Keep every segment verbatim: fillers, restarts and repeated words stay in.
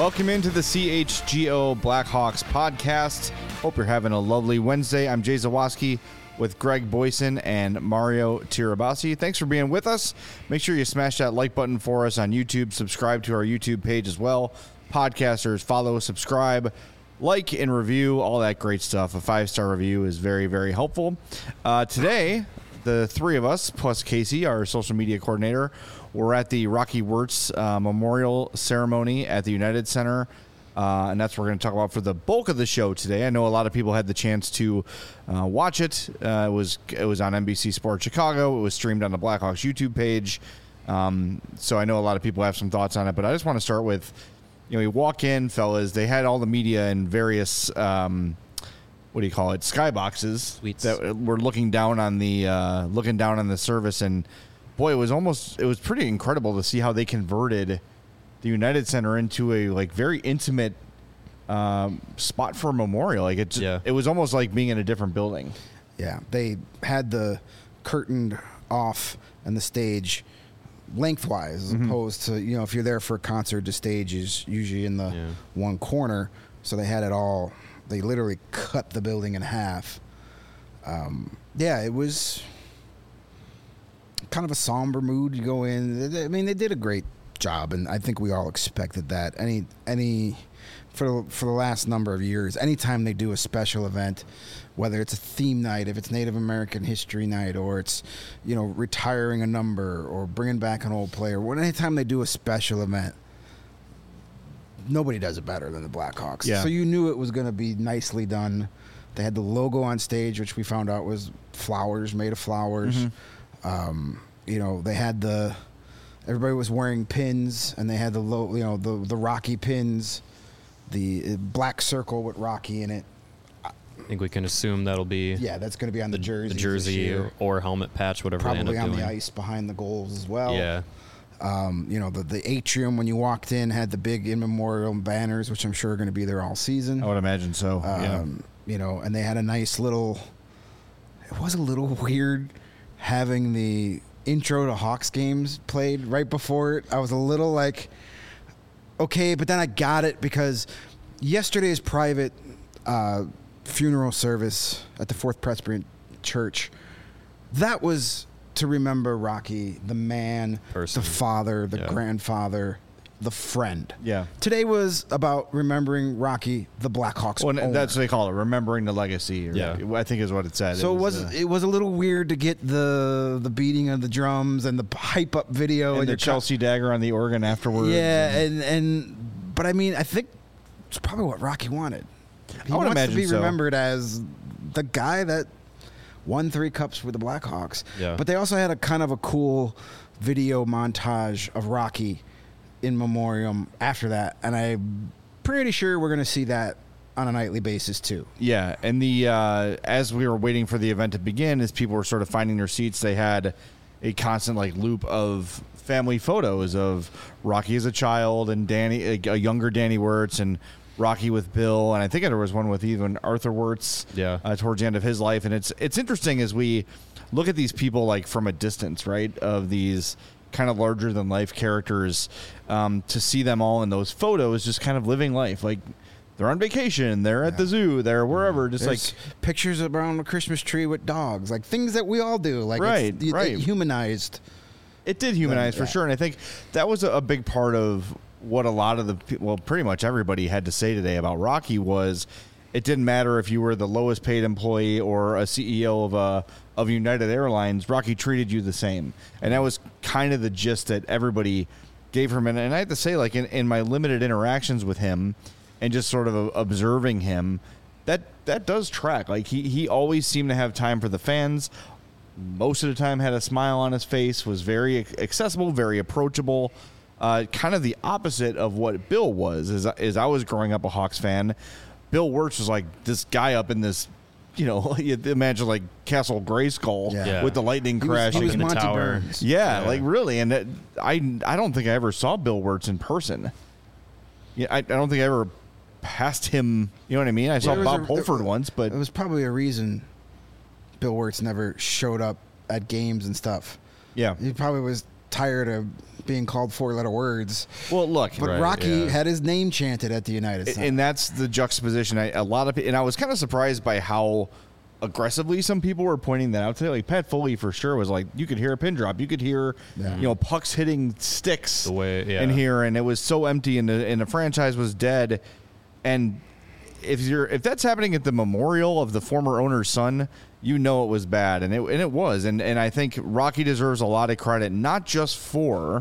Welcome into the C H G O Blackhawks podcast. Hope you're having a lovely Wednesday. I'm Jay Zawoski with Greg Boyson and Mario Tirabassi. Thanks for being with us. Make sure you smash that like button for us on YouTube. Subscribe to our YouTube page as well. Podcasters, follow, subscribe, like, and review, all that great stuff. A five-star review is very, very helpful. Uh, today, the three of us, plus Casey, our social media coordinator, we're at the Rocky Wirtz uh, Memorial Ceremony at the United Center, uh, and that's what we're going to talk about for the bulk of the show today. I know a lot of people had the chance to uh, watch it. Uh, it was it was on N B C Sports Chicago. It was streamed on the Blackhawks YouTube page. Um, so I know a lot of people have some thoughts on it, but I just want to start with, you know, you walk in, fellas, they had all the media in various, um, what do you call it, skyboxes Suites. that were looking down on the uh, looking down on the service, and boy, it was almost, it was pretty incredible to see how they converted the United Center into a like very intimate um, spot for a memorial. Like it, Yeah. it was almost like being in a different building. Yeah, they had the curtain off and the stage lengthwise, as Mm-hmm. opposed to, you know, if you're there for a concert, the stage is usually in the Yeah. one corner. So they had it all. They literally cut the building in half. Um, yeah, it was kind of a somber mood. You go in. I mean, they did a great job, and I think we all expected that. Any any for for the last number of years, anytime they do a special event, whether it's a theme night, if it's Native American History Night, or it's, you know, retiring a number or bringing back an old player, when anytime they do a special event, nobody does it better than the Blackhawks. Yeah. So you knew it was going to be nicely done. They had the logo on stage, which we found out was flowers, made of flowers. Mm-hmm. Um, you know, they had the everybody was wearing pins, and they had the low, you know, the the Rocky pins, the uh, black circle with Rocky in it. I think we can assume that'll be Yeah, that's going to be on the, the, jersey. the jersey or, or helmet patch, whatever they end Probably up on doing. the ice behind the goals as well. Yeah, Um, you know, the, the atrium when you walked in had the big in memoriam banners, which I'm sure are going to be there all season. I would imagine so. yeah. Um, you know, and they had a nice little. It was a little weird having the intro to Hawks games played right before it. I was a little like, okay, but then I got it because yesterday's private uh, funeral service at the Fourth Presbyterian Church, that was to remember Rocky, the man, Person. the father, the Yeah. grandfather, the friend. Yeah. Today was about remembering Rocky, the Blackhawks Well, owner. that's what they call it, remembering the legacy. Or, Yeah. I think is what it said. So it was uh, it was a little weird to get the the beating of the drums and the hype up video and and the your co- Chelsea dagger on the organ afterwards. yeah, and and but I mean I think it's probably what Rocky wanted. He I would wants imagine to be so. remembered as the guy that won three cups with the Blackhawks. Yeah. But they also had a kind of a cool video montage of Rocky in memoriam after that, and I'm pretty sure we're going to see that on a nightly basis too. Yeah, and the uh, as we were waiting for the event to begin, as people were sort of finding their seats, they had a constant like loop of family photos of Rocky as a child and Danny, a, a younger Danny Wirtz, and Rocky with Bill, and I think there was one with even Arthur Wirtz. Yeah. uh, towards the end of his life, and it's it's interesting as we look at these people like from a distance, right? Of these kind of larger than life characters, um, to see them all in those photos, just kind of living life like. They're on vacation. They're at the zoo. They're wherever. Just There's like pictures around the Christmas tree with dogs, like things that we all do. Like Right, it's, it- right. it humanized. it did humanize Yeah. for sure. And I think that was a, a big part of what a lot of the pe- well, pretty much everybody had to say today about Rocky was it didn't matter if you were the lowest paid employee or a C E O of a of United Airlines. Rocky treated you the same, and that was kind of the gist that everybody gave him. And, and I have to say, like in, in my limited interactions with him. And just sort of observing him, that that does track. Like he, he always seemed to have time for the fans. Most of the time, had a smile on his face. Was very accessible, very approachable. Uh, kind of the opposite of what Bill was. As as I was growing up a Hawks fan, Bill Wirtz was like this guy up in this, you know, you imagine like Castle Grayskull Yeah. Yeah. with the lightning He was, crashing. he was in the Monty tower. Burns. Yeah, Yeah. like really, and that, I I don't think I ever saw Bill Wirtz in person. Yeah, I, I don't think I ever passed him. You know what I mean? I saw There was Bob a- Holford it- once, but It was probably a reason Bill Wirtz never showed up at games and stuff. yeah, He probably was tired of being called four-letter words. Well, look, but right, Rocky yeah. had his name chanted at the United Center. and that's the juxtaposition. I, a lot of, and I was kind of surprised by how aggressively some people were pointing that out today. Like Pat Foley for sure was like, you could hear a pin drop, you could hear, Yeah. you know, pucks hitting sticks The way- yeah. in here, and it was so empty, and the and the franchise was dead. And if you're if that's happening at the memorial of the former owner's son, you know it was bad, and it and it was. And and I think Rocky deserves a lot of credit, not just for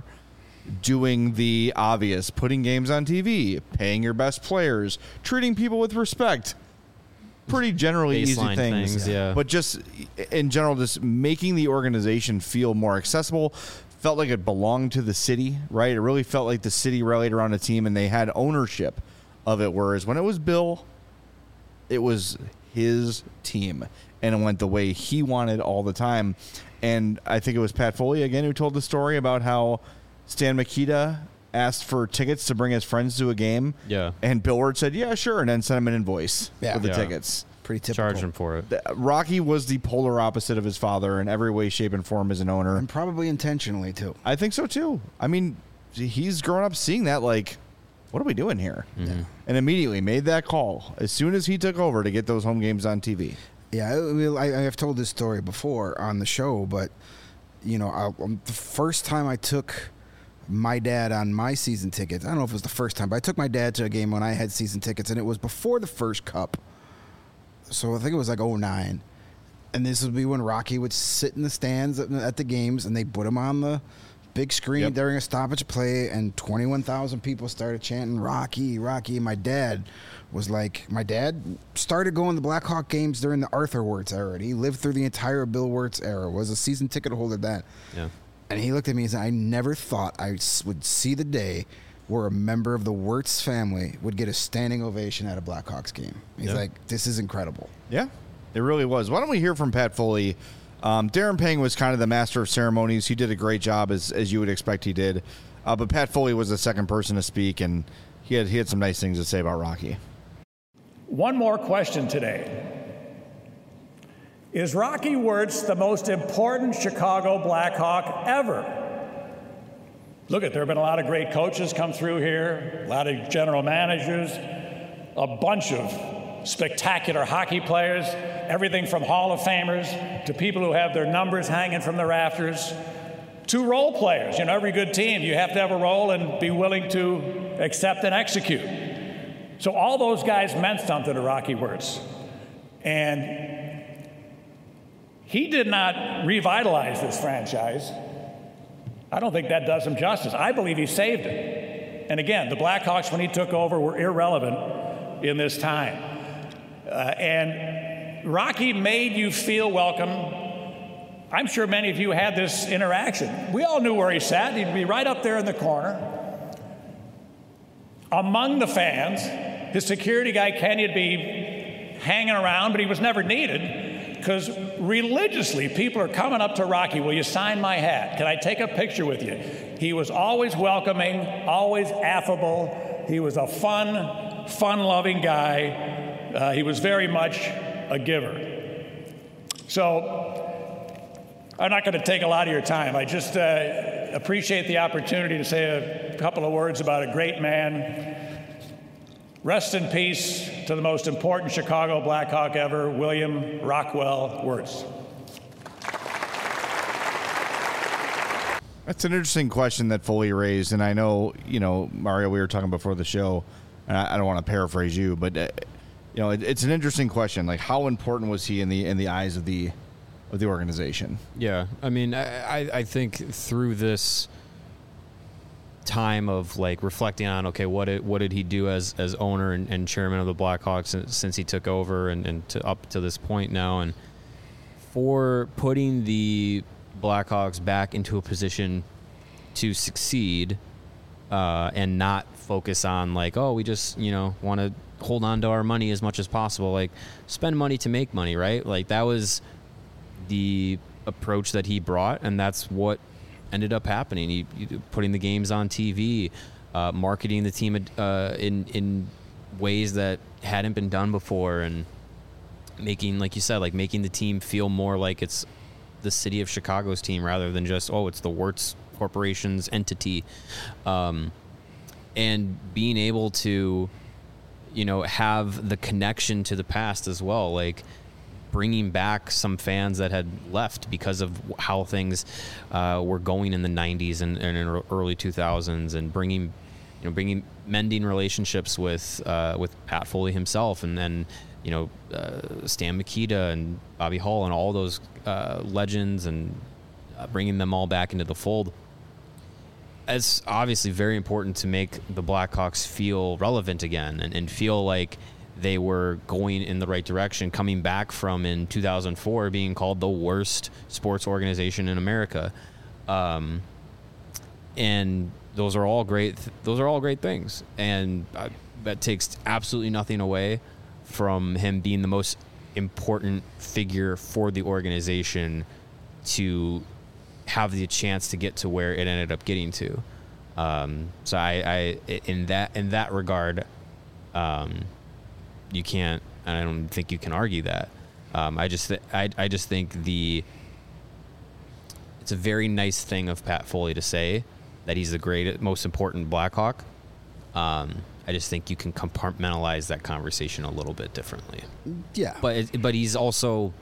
doing the obvious, putting games on T V, paying your best players, treating people with respect. Pretty generally easy Baseline things, things, yeah. but just in general, just making the organization feel more accessible. Felt like it belonged to the city, right? It really felt like the city rallied around a team and they had ownership of it. Whereas when it was Bill, it was his team and it went the way he wanted all the time. And I think it was Pat Foley again who told the story about how Stan Mikita asked for tickets to bring his friends to a game. Yeah. And Bill Wirtz said, yeah, sure. And then sent him an invoice Yeah. with the Yeah. tickets. Pretty typical. Charge him for it. Rocky was the polar opposite of his father in every way, shape, and form as an owner. And probably intentionally, too. I think so, too. I mean, he's grown up seeing that, like, what are we doing here? Mm-hmm. And immediately made that call as soon as he took over to get those home games on T V. Yeah, I, mean, I, I have told this story before on the show, but, you know, I, um, the first time I took my dad on my season tickets, I don't know if it was the first time, but I took my dad to a game when I had season tickets, and it was before the first cup. So I think it was like oh nine. And this would be when Rocky would sit in the stands at, at the games, and they put him on the big screen Yep. during a stoppage play, and twenty-one thousand people started chanting, Rocky, Rocky. And my dad was like, my dad started going to Blackhawk games during the Arthur Wirtz era. He lived through the entire Bill Wirtz era, was a season ticket holder then. Yeah. And he looked at me and said, I never thought I s- would see the day where a member of the Wirtz family would get a standing ovation at a Blackhawks game. He's Yeah. like, this is incredible. Yeah, it really was. Why don't we hear from Pat Foley? Um, Darren Pang was kind of the master of ceremonies. He did a great job, as as you would expect he did. Uh, but Pat Foley was the second person to speak, and he had he had some nice things to say about Rocky. One more question today. Is Rocky Wirtz the most important Chicago Blackhawk ever? Look, at there have been a lot of great coaches come through here, a lot of general managers, a bunch of spectacular hockey players, everything from Hall of Famers to people who have their numbers hanging from the rafters, to role players. You know, every good team, you have to have a role and be willing to accept and execute. So all those guys meant something to Rocky Wirtz. And he did not revitalize this franchise. I don't think that does him justice. I believe he saved it. And again, the Blackhawks, when he took over, were irrelevant in this time. Uh, and Rocky made you feel welcome. I'm sure many of you had this interaction. We all knew where he sat. He'd be right up there in the corner. Among the fans, his security guy, Kenny, would be hanging around, but he was never needed. Because religiously, people are coming up to Rocky, will you sign my hat? Can I take a picture with you? He was always welcoming, always affable. He was a fun, fun-loving guy. Uh, he was very much a giver. So I'm not going to take a lot of your time. I just uh, appreciate the opportunity to say a couple of words about a great man. Rest in peace to the most important Chicago Blackhawk ever, William Rockwell Wirtz. That's an interesting question that Foley raised, and I know, you know, Mario, we were talking before the show, and I, I don't want to paraphrase you, but uh, you know, it, it's an interesting question. Like, how important was he in the in the eyes of the of the organization? Yeah, I mean, I, I I think through this time of like reflecting on, okay, what did what did he do as as owner and, and chairman of the Blackhawks since, since he took over and, and to up to this point now, and for putting the Blackhawks back into a position to succeed uh, and not focus on like, oh, we just, you know, want to hold on to our money as much as possible, like spend money to make money, right? Like that was the approach that he brought, and that's what ended up happening. He, he putting the games on T V, uh, marketing the team uh, in in ways that hadn't been done before, and making, like you said, like making the team feel more like it's the city of Chicago's team rather than just, oh, it's the Wirtz Corporation's entity. Um, and being able to, you know, have the connection to the past as well, like bringing back some fans that had left because of how things uh, were going in the nineties and, and in early two thousands, and bringing, you know, bringing mending relationships with uh, with Pat Foley himself, and then, you know, uh, Stan Mikita and Bobby Hull and all those uh, legends, and uh, bringing them all back into the fold. It's obviously very important to make the Blackhawks feel relevant again, and, and feel like they were going in the right direction, coming back from, in two thousand four, being called the worst sports organization in America. Um, and those are all great. Th- those are all great things. And uh, that takes absolutely nothing away from him being the most important figure for the organization to have the chance to get to where it ended up getting to. Um, so I, I, in that, in that regard, um, you can't, and I don't think you can argue that. Um, I just, th- I, I just think the, it's a very nice thing of Pat Foley to say that he's the greatest, most important Blackhawk. Um, I just think you can compartmentalize that conversation a little bit differently. Yeah. But, it, but he's also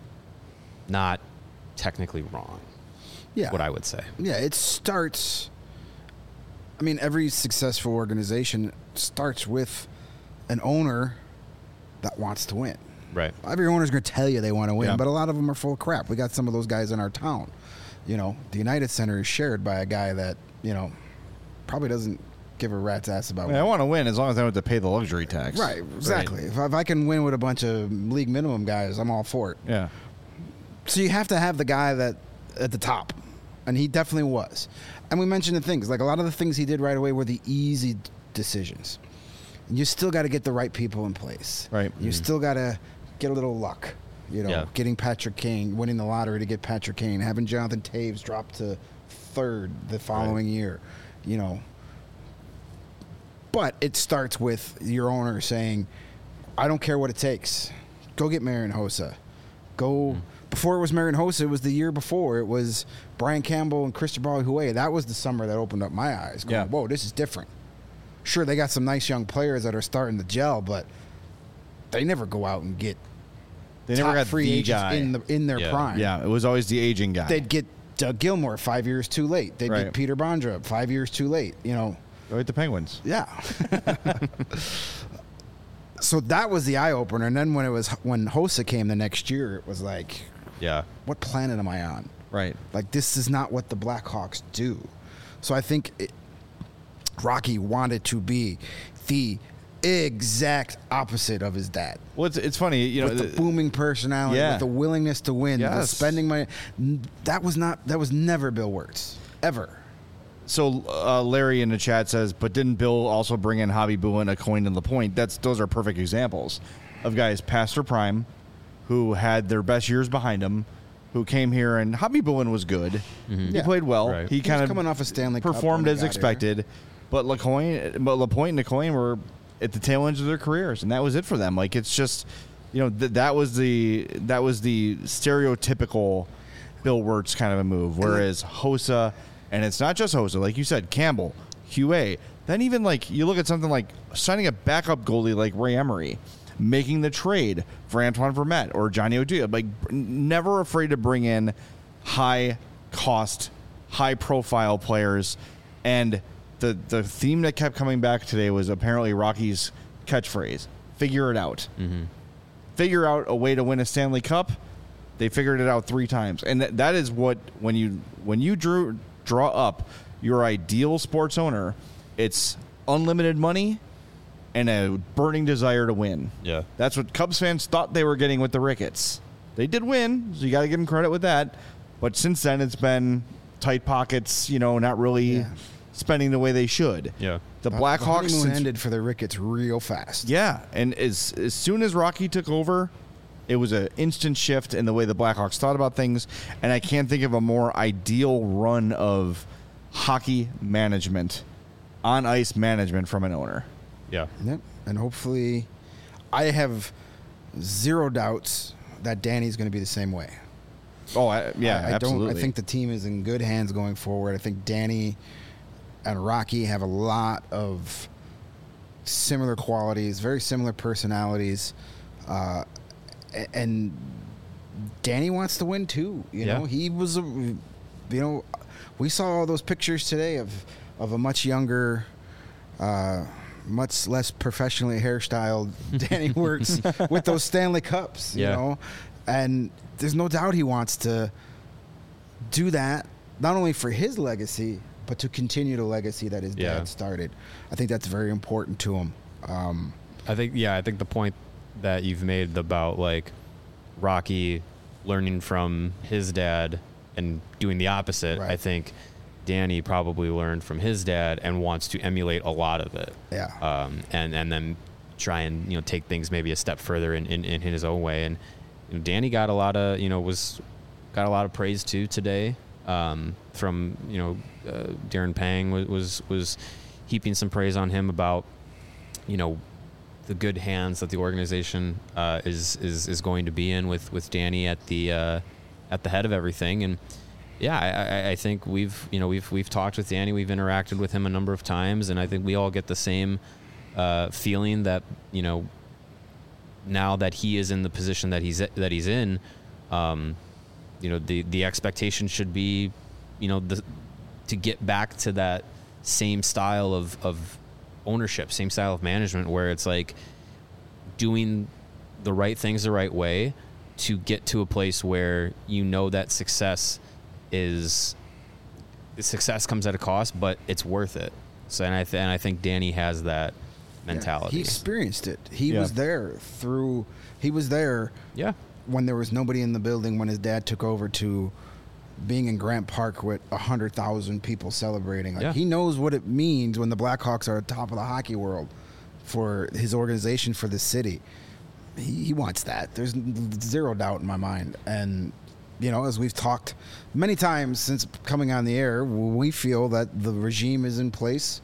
not technically wrong. Yeah. What I would say. Yeah, it starts. I mean, every successful organization starts with an owner that wants to win. Right. Every owner's going to tell you they want to win, Yeah. but a lot of them are full of crap. We got some of those guys in our town. You know, the United Center is shared by a guy that, you know, probably doesn't give a rat's ass about I, mean, I want to win as long as I don't have to pay the luxury tax. Right, exactly. If, if I can win with a bunch of league minimum guys, I'm all for it. Yeah. So you have to have the guy that at the top, and he definitely was. And we mentioned the things, like a lot of the things he did right away were the easy d- decisions. You still got to get the right people in place. Right. You Mm-hmm. still got to get a little luck. You know, Yeah. getting Patrick Kane, winning the lottery to get Patrick Kane, having Jonathan Taves drop to third the following Right. year. You know. But it starts with your owner saying, I don't care what it takes. Go get Marian Hossa. Go. Mm. Before it was Marian Hossa, it was the year before. It was Brian Campbell and Cristobal Huey. That was the summer that opened up my eyes. Going, Yeah. whoa, this is different. Sure, they got some nice young players that are starting to gel, but they never go out and get They top never got free the agents guy. in the in their Yeah. prime. Yeah, it was always the aging guy. They'd get Doug Gilmore five years too late. They'd Right. get Peter Bondra five years too late. You know. Go with the Penguins. Yeah. So that was the eye opener, and then when it was when Hossa came the next year, it was like, Yeah. what planet am I on? Right. Like, this is not what the Blackhawks do. So I think it, Rocky wanted to be the exact opposite of his dad. Well, it's, it's funny, you know. With the th- booming personality, Yeah. with the willingness to win, the Yes. spending money. N- That was not. That was never Bill Wirtz, ever. So uh, Larry in the chat says, but didn't Bill also bring in Hobby Boone, Coin, and LaPointe? That's those are perfect examples of guys past their prime, who had their best years behind them, who came here, and Hobby Boone was good. He Yeah. played well. Right. He He kind was of coming off a Stanley Cup performed when he as got here. expected, but LaCoin, but LaPointe and LaCoin were at the tail ends of their careers, and that was it for them. Like it's just, you know, th- that was the that was the stereotypical Bill Wirtz kind of a move. Whereas Hossa, and it's not just Hossa, like you said, Campbell, Huey. Then even like you look at something like signing a backup goalie like Ray Emery, making the trade for Antoine Vermette or Johnny O'Dia, like never afraid to bring in high cost, high profile players. And the the theme that kept coming back today was apparently Rocky's catchphrase: "Figure it out." Mm-hmm. Figure out a way to win a Stanley Cup. They figured it out three times, and that, that is what when you when you drew draw up your ideal sports owner, it's unlimited money and a burning desire to win. Yeah. That's what Cubs fans thought they were getting with the Ricketts. They did win, so you got to give them credit with that. But since then, it's been tight pockets, you know, not really Yeah. spending the way they should. Yeah. The The Blackhawks honeymoon since- ended for the Ricketts real fast. yeah, and as as soon as Rocky took over, it was an instant shift in the way the Blackhawks thought about things, and I can't think of a more ideal run of hockey management, on ice management from an owner. Yeah. Yep. And hopefully, I have zero doubts that Danny's going to be the same way. Oh, I, yeah, I, I absolutely. don't. I think the team is in good hands going forward. I think Danny and Rocky have a lot of similar qualities, very similar personalities, uh, a- and Danny wants to win too. You Yeah. know, he was, a, you know, we saw all those pictures today of of a much younger, uh, much less professionally hairstyled Danny Wirtz with those Stanley Cups. You Yeah. know, and there's no doubt he wants to do that not only for his legacy, but to continue the legacy that his Yeah. dad started. I think that's very important to him. Um, I think yeah, I think the point that you've made about like Rocky learning from his dad and doing the opposite, Right. I think Danny probably learned from his dad and wants to emulate a lot of it. Yeah. Um, and and then try and you know take things maybe a step further in, in, in his own way. And you know, Danny got a lot of you know was got a lot of praise too today um, from you know uh, Darren Pang was, was was heaping some praise on him about you know the good hands that the organization uh, is is is going to be in with with Danny at the uh, at the head of everything. And yeah, I, I, I think we've you know we've we've talked with Danny, we've interacted with him a number of times, and I think we all get the same uh, feeling that you know now that he is in the position that he's that he's in, um, you know the the expectation should be you know the to get back to that same style of of ownership, same style of management, where it's like doing the right things the right way to get to a place where you know that success is success comes at a cost, but it's worth it. So and I th- and I think Danny has that mentality. He experienced it. He Yeah. was there through. He was there yeah, when there was nobody in the building when his dad took over to being in Grant Park with a hundred thousand people celebrating. Like Yeah. he knows what it means when the Blackhawks are at top of the hockey world for his organization, for the city. He, he wants that. There's zero doubt in my mind. And you know, as we've talked many times since coming on the air, we feel that the regime is in place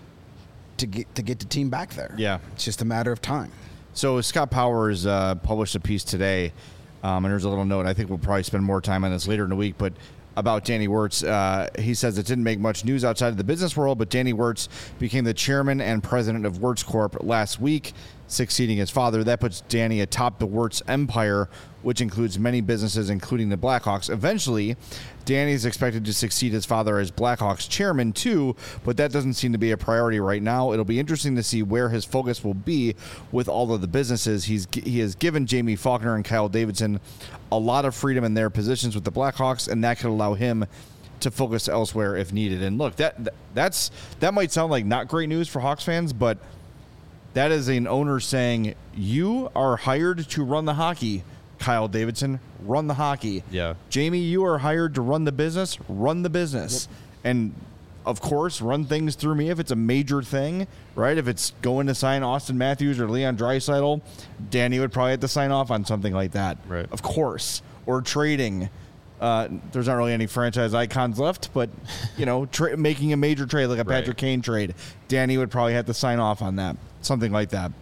to get to get the team back there. Yeah. It's just a matter of time. So Scott Powers uh, published a piece today, um, and there's a little note. I think we'll probably spend more time on this later in the week, but about Danny Wirtz. Uh, he says it didn't make much news outside of the business world, but Danny Wirtz became the chairman and president of Wirtz Corp last week, succeeding his father. That puts Danny atop the Wirtz empire, which includes many businesses, including the Blackhawks. Eventually, Danny is expected to succeed his father as Blackhawks chairman too, but that doesn't seem to be a priority right now. It'll be interesting to see where his focus will be with all of the businesses. He's he has given Jamie Faulkner and Kyle Davidson a lot of freedom in their positions with the Blackhawks, and that could allow him to focus elsewhere if needed. And look, that that's that might sound like not great news for Hawks fans, but that is an owner saying, you are hired to run the hockey, Kyle Davidson, run the hockey. Yeah. Jamie, you are hired to run the business, run the business. Yep. And, of course, run things through me if it's a major thing, right? If it's going to sign Austin Matthews or Leon Draisaitl, Danny would probably have to sign off on something like that. Right. Of course. Or trading. Uh, there's not really any franchise icons left, but, you know, tra- making a major trade like a Right. Patrick Kane trade, Danny would probably have to sign off on that. Something like that.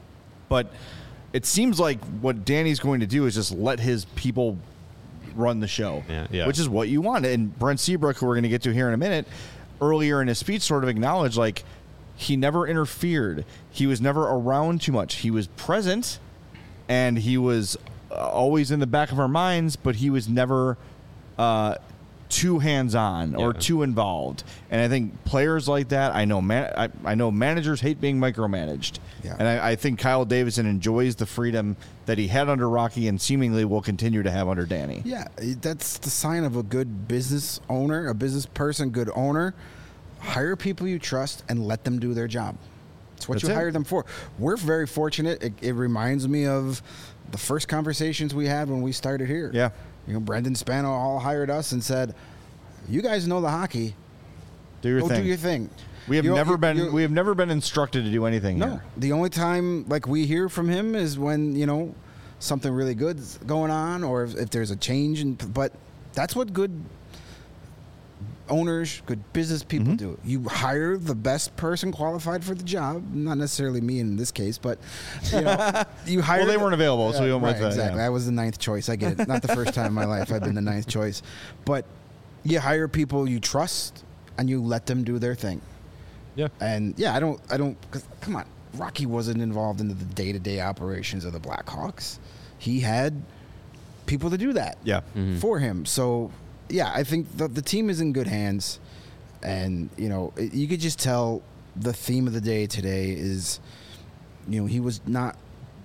But it seems like what Danny's going to do is just let his people run the show, Yeah, yeah. which is what you want. And Brent Seabrook, who we're going to get to here in a minute, earlier in his speech sort of acknowledged, like, he never interfered. He was never around too much. He was present, and he was uh, always in the back of our minds, but he was never uh, too hands-on or Yeah. too involved. And I think players like that, I know man, I, I know managers hate being micromanaged. Yeah. And I, I think Kyle Davidson enjoys the freedom that he had under Rocky and seemingly will continue to have under Danny. Yeah, that's the sign of a good business owner, a business person, good owner. Hire people you trust and let them do their job. It's what That's you it. hire them for. We're very fortunate. It, it reminds me of the first conversations we had when we started here. Yeah. You know, Brendan Spano all hired us and said, "You guys know the hockey. Do your Go thing. do your thing." We have You know, never you- been you- we have never been instructed to do anything No, here. the only time like we hear from him is when you know something really good's going on, or if, if there's a change. In, but that's what good owners, good business people Mm-hmm. do. You hire the best person qualified for the job. Not necessarily me in this case, but you know, you hire. Well, they the- weren't available, so we went right, with that. exactly. yeah. I was the ninth choice. I get it. Not the first time in my life I've been the ninth choice, but you hire people you trust and you let them do their thing. Yeah. And yeah, I don't, I don't. Cause, come on, Rocky wasn't involved in the day-to-day operations of the Blackhawks. He had people to do that. Yeah. Mm-hmm. For him. So yeah, I think the the team is in good hands, and you know it, you could just tell the theme of the day today is, you know, he was not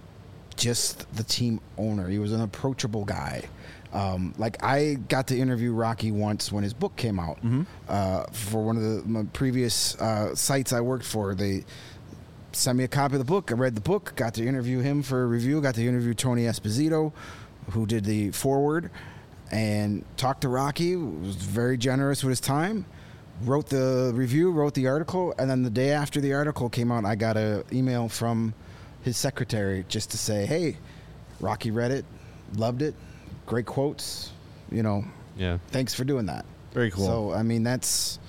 just the team owner. He was an approachable guy. Um, like I got to interview Rocky once when his book came out uh, for one of the my previous uh, sites I worked for. They sent me a copy of the book. I read the book, got to interview him for a review, got to interview Tony Esposito, who did the foreword, and talked to Rocky. Was very generous with his time. Wrote the review, wrote the article, and then the day after the article came out, I got an email from his secretary just to say, hey, Rocky read it, loved it, great quotes, you know, Yeah. thanks for doing that. Very cool. So, I mean, that's,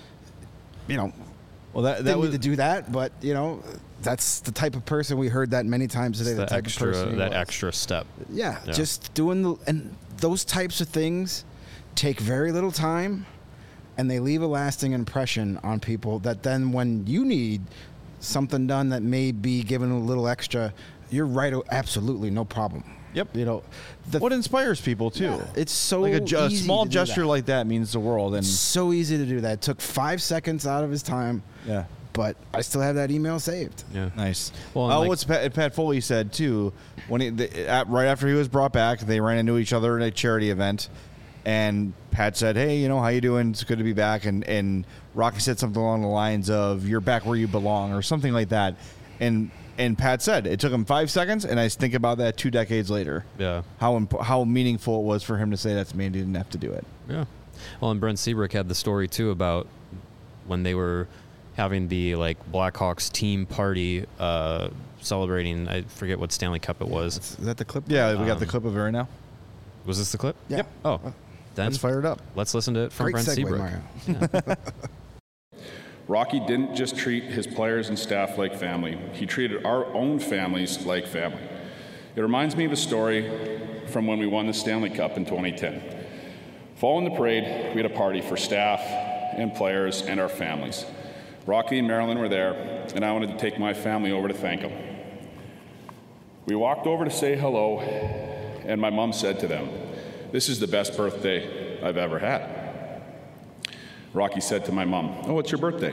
you know, Well, that that didn't was need to do that, but, you know, that's the type of person we heard that many times today. It's The that type of extra person he that was. extra step. Yeah, Yeah. just doing the, and those types of things take very little time, and they leave a lasting impression on people that then when you need something done that may be given a little extra, you're right, oh, absolutely, no problem. Yep. You know, the, what inspires people too. yeah, it's so like a, ju- a easy small to do gesture that. like that means the world. And so easy to do that. It took five seconds out of his time, yeah, but I still have that email saved. Yeah. nice. Well, Well, and uh, like- what's Pat, Pat Foley said too when he, the, at, right after he was brought back, they ran into each other at a charity event, and Pat said, "Hey, you know, how you doing? It's good to be back." And and Rocky said something along the lines of, "You're back where you belong," or something like that. And and Pat said it took him five seconds, and I think about that two decades later. Yeah. How imp- how meaningful it was for him to say that to me, and he didn't have to do it. Yeah. Well, and Brent Seabrook had the story too about when they were having the like Blackhawks team party, uh, celebrating. I forget what Stanley Cup it was. Is that the clip? Yeah, we got the Um, clip of it right now. Was this the clip? Yeah. Yep. Oh, then Let's fire it up. let's listen to it from Great Brent segue, Seabrook. Mario. Rocky didn't just treat his players and staff like family. He treated our own families like family. It reminds me of a story from when we won the Stanley Cup in twenty ten. Following the parade, we had a party for staff and players and our families. Rocky and Marilyn were there, and I wanted to take my family over to thank them. We walked over to say hello, and my mom said to them, "This is the best birthday I've ever had." Rocky said to my mom, "Oh, it's your birthday."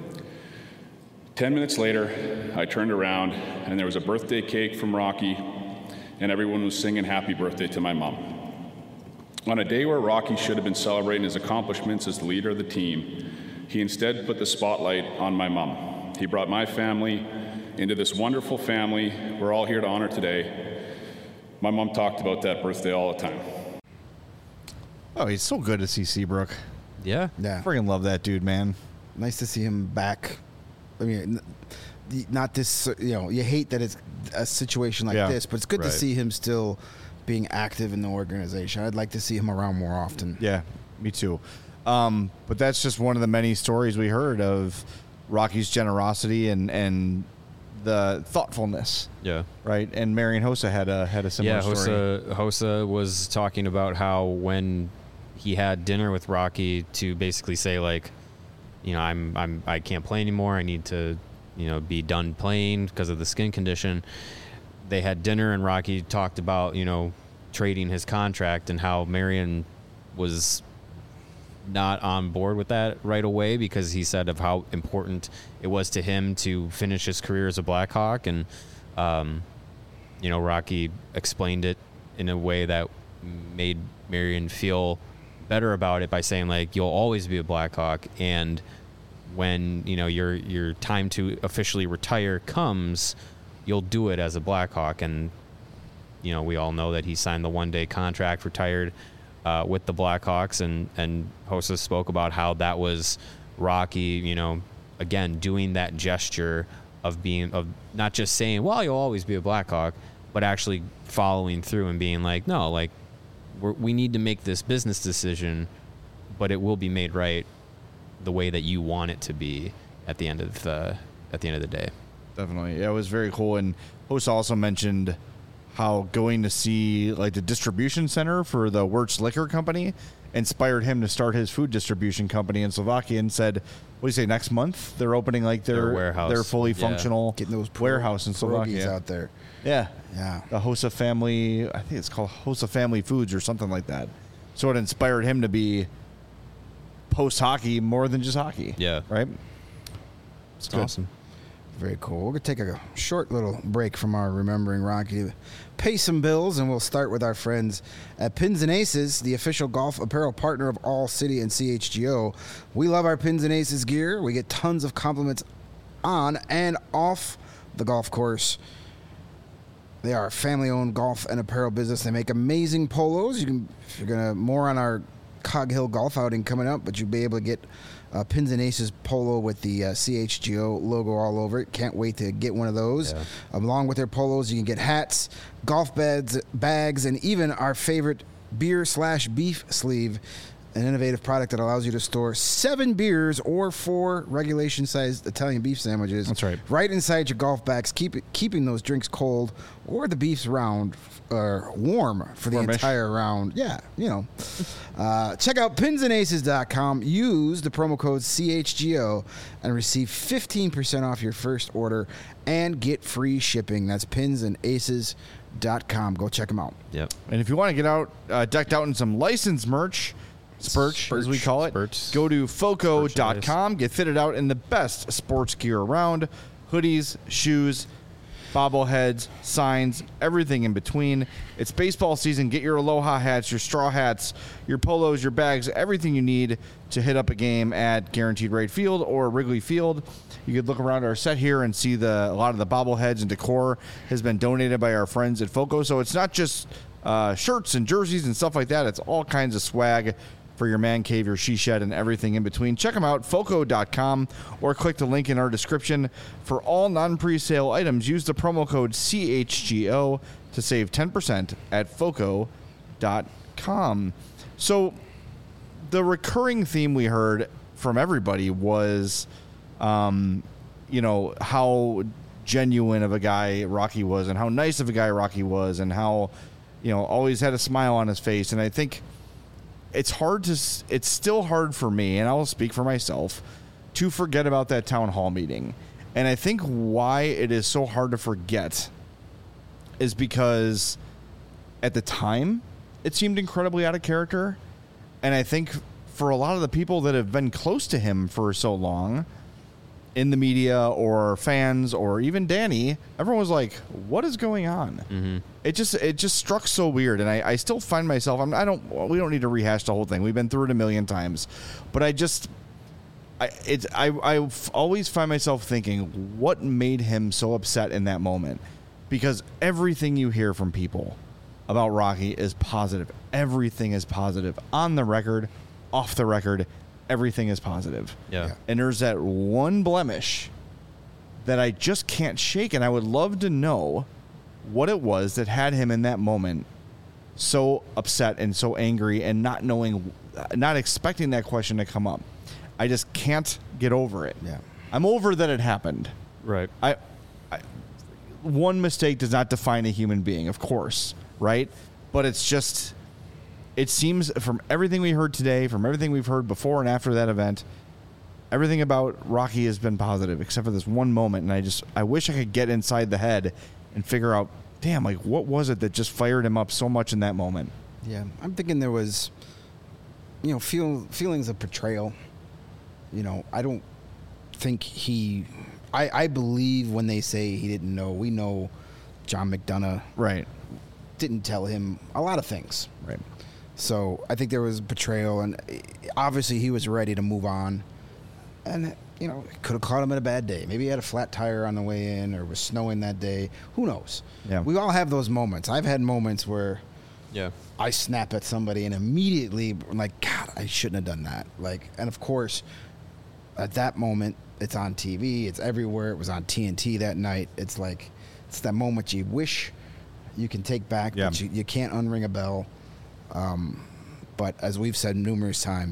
Ten minutes later, I turned around and there was a birthday cake from Rocky, and everyone was singing happy birthday to my mom. On a day where Rocky should have been celebrating his accomplishments as the leader of the team, he instead put the spotlight on my mom. He brought my family into this wonderful family we're all here to honor today. My mom talked about that birthday all the time. Oh, he's so good to see Seabrook. Yeah. Yeah. Freaking love that dude, man. Nice to see him back. I mean, n- the- not this, you know, you hate that it's a situation like Yeah. this, but it's good Right. to see him still being active in the organization. I'd like to see him around more often. Yeah, me too. Um, but that's just one of the many stories we heard of Rocky's generosity and and the thoughtfulness, Yeah. right? And Marian Hossa had a had a similar Yeah, story. Hossa, Hossa was talking about how when he had dinner with Rocky to basically say like, you know, I'm I'm I can't play anymore. I need to, you know, be done playing because of the skin condition. They had dinner and Rocky talked about, you know, trading his contract and how Marian was not on board with that right away because he said of how important it was to him to finish his career as a Blackhawk. And, um, you know, Rocky explained it in a way that made Marian feel better about it by saying, like, you'll always be a Blackhawk. And when, you know, your your time to officially retire comes, you'll do it as a Blackhawk. And, you know, we all know that he signed the one-day contract, retired uh, with the Blackhawks, and, and Hossa spoke about how that was Rocky, you know, again, doing that gesture of being, of not just saying, well, you'll always be a Blackhawk, but actually following through and being like, no, like, we're, we need to make this business decision but it will be made right the way that you want it to be at the end of the at the end of the day. Definitely. Yeah, it was very cool. And host also mentioned how going to see like the distribution center for the Wirtz Liquor Company inspired him to start his food distribution company in Slovakia, and said, what do you say, next month they're opening like their, Their warehouse. their fully Yeah. functional Getting those pro- warehouse in pierogies Slovakia. out there. Yeah. Yeah. The Hossa Family, I think it's called Hossa Family Foods or something like that. So it inspired him to be post-hockey more than just hockey. Yeah. Right? It's good. awesome. Very cool. We're going to take a short little break from our Remembering Rocky, pay some bills, and we'll start with our friends at Pins and Aces, the official golf apparel partner of All City and C H G O. We love our Pins and Aces gear. We get tons of compliments on and off the golf course. They are a family-owned golf and apparel business. They make amazing polos. You can, if you're gonna more on our Cog Hill golf outing coming up, but you'll be able to get uh, Pins and Aces polo with the uh, C H G O logo all over it. Can't wait to get one of those. Yeah. Along with their polos, you can get hats, golf bags, bags, and even our favorite beer slash beef sleeve. An innovative product that allows you to store seven beers or four regulation-sized Italian beef sandwiches. That's right. Right inside your golf bags, keep it, keeping those drinks cold or the beefs round or warm for the Warmish. entire round. Yeah, you know. Uh, check out pins and aces dot com. Use the promo code C H G O and receive fifteen percent off your first order and get free shipping. That's pins and aces dot com. Go check them out. Yep. And if you want to get out uh, decked out in some licensed merch, Spurch, as we call it, Spurch. go to foco dot com. Get fitted out in the best sports gear around. Hoodies, shoes, bobbleheads, signs, everything in between. It's baseball season. Get your Aloha hats, your straw hats, your polos, your bags, everything you need to hit up a game at Guaranteed Rate Field or Wrigley Field. You could look around our set here and see the a lot of the bobbleheads and decor has been donated by our friends at Foco. So it's not just uh, shirts and jerseys and stuff like that. It's all kinds of swag for your man cave, your she shed, and everything in between. Check them out, foco dot com, or click the link in our description. For all non-presale items, use the promo code C H G O to save ten percent at foco dot com. So the recurring theme we heard from everybody was, um, you know, how genuine of a guy Rocky was and how nice of a guy Rocky was and how, you know, always had a smile on his face. And I think it's hard to, it's still hard for me, and I will speak for myself, to forget about that town hall meeting. And I think why it is so hard to forget is because at the time it seemed incredibly out of character. And I think for a lot of the people that have been close to him for so long in the media or fans or even Danny, everyone was like, what is going on? Mm-hmm. It just it just struck so weird. And I, I still find myself, I'm, I don't, we don't need to rehash the whole thing. We've been through it a million times. But I just, I it's I I always find myself thinking, what made him so upset in that moment? Because everything you hear from people about Rocky is positive. Everything is positive. On the record, off the record, everything is positive. Yeah. Yeah. And there's that one blemish that I just can't shake, and I would love to know what it was that had him in that moment so upset and so angry and not knowing, not expecting that question to come up. I just can't get over it. Yeah. I'm over that it happened. Right. I, I, one mistake does not define a human being, of course, right? But it's just, it seems from everything we heard today, from everything we've heard before and after that event, everything about Rocky has been positive, except for this one moment. And I just, I wish I could get inside the head and figure out, damn, like what was it that just fired him up so much in that moment? Yeah, I'm thinking there was, you know, feel feelings of betrayal. You know, I don't think he. I, I believe when they say he didn't know. We know John McDonough Right. didn't tell him a lot of things. Right. So I think there was betrayal, and obviously he was ready to move on. And, you know, it could have caught him at a bad day. Maybe he had a flat tire on the way in or was snowing that day. Who knows? Yeah. We all have those moments. I've had moments where Yeah. I snap at somebody and immediately I'm like, God, I shouldn't have done that. Like, and of course, at that moment, it's on T V. It's everywhere. It was on T N T that night. It's like, it's that moment you wish you can take back, Yeah. but you, you can't unring a bell. Um, but as we've said numerous times,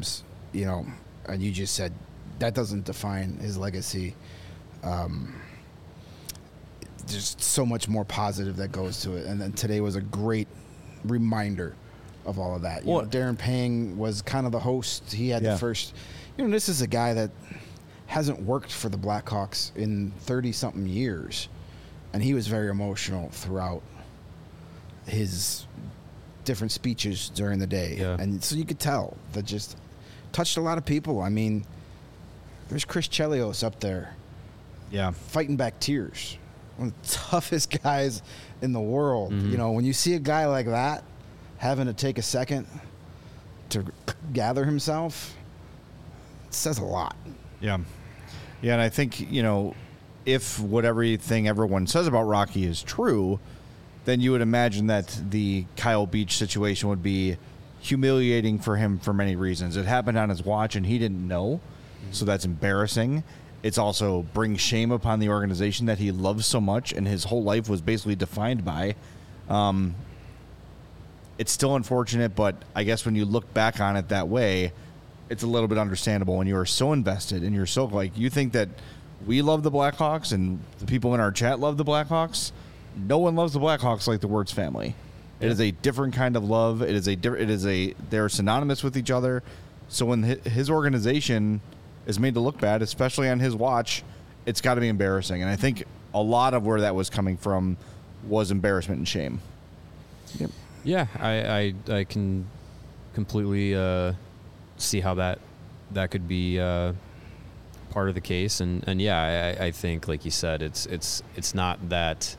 you know, and you just said that doesn't define his legacy. Um, there's so much more positive that goes to it, and then today was a great reminder of all of that. You Well- know, Darren Pang was kind of the host. He had Yeah. the first. You know, this is a guy that hasn't worked for the Blackhawks in thirty something years, and he was very emotional throughout his different speeches during the day. Yeah. And so you could tell that just touched a lot of people. I mean, there's Chris Chelios up there Yeah. fighting back tears. One of the toughest guys in the world. Mm-hmm. You know, when you see a guy like that having to take a second to gather himself, it says a lot. Yeah. Yeah, and I think, you know, if what everything everyone says about Rocky is true, then you would imagine that the Kyle Beach situation would be humiliating for him for many reasons. It happened on his watch and he didn't know, so that's embarrassing. It's also brings shame upon the organization that he loves so much and his whole life was basically defined by. Um, it's still unfortunate, but I guess when you look back on it that way, it's a little bit understandable when you are so invested and you're so like, you think that we love the Blackhawks and the people in our chat love the Blackhawks. No one loves the Blackhawks like the Wirtz family. It is a different kind of love. It is a different, it is a, they're synonymous with each other. So when hi- his organization is made to look bad, especially on his watch, it's got to be embarrassing. And I think a lot of where that was coming from was embarrassment and shame. Yep. Yeah, I I, I can completely uh, see how that that could be uh, part of the case, and and yeah, I, I think like you said, it's it's it's not that.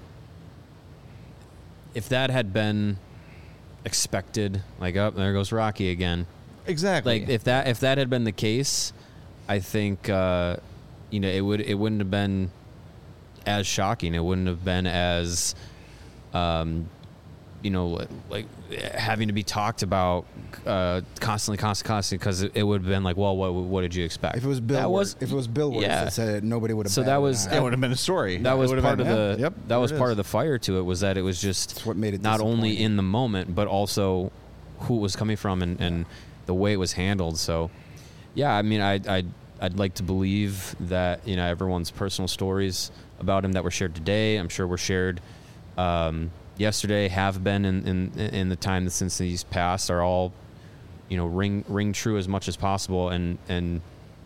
If that had been expected, like, oh, there goes Rocky again. Exactly. Like if that if that had been the case, I think uh, you know it would it wouldn't have been as shocking. It wouldn't have been as um, you know like having to be talked about uh, constantly, constantly, constantly because it, it would have been like, well, what what did you expect? If it was Bill, that Wirt- was if it was Bill Wirtz yeah. that said it, nobody would have. So that was- That would have been a story. that was It would have part been, of the yeah, yep, that there was it part is. of the fire to it, was that it was just That's what made it not only disappointing. in the moment but also who it was coming from and, and the way it was handled. So yeah, I mean, I I I'd like to believe that, you know, everyone's personal stories about him that were shared today, I'm sure were shared um, yesterday, have been in, in in the time that since he's passed, are all, you know, ring ring true as much as possible and and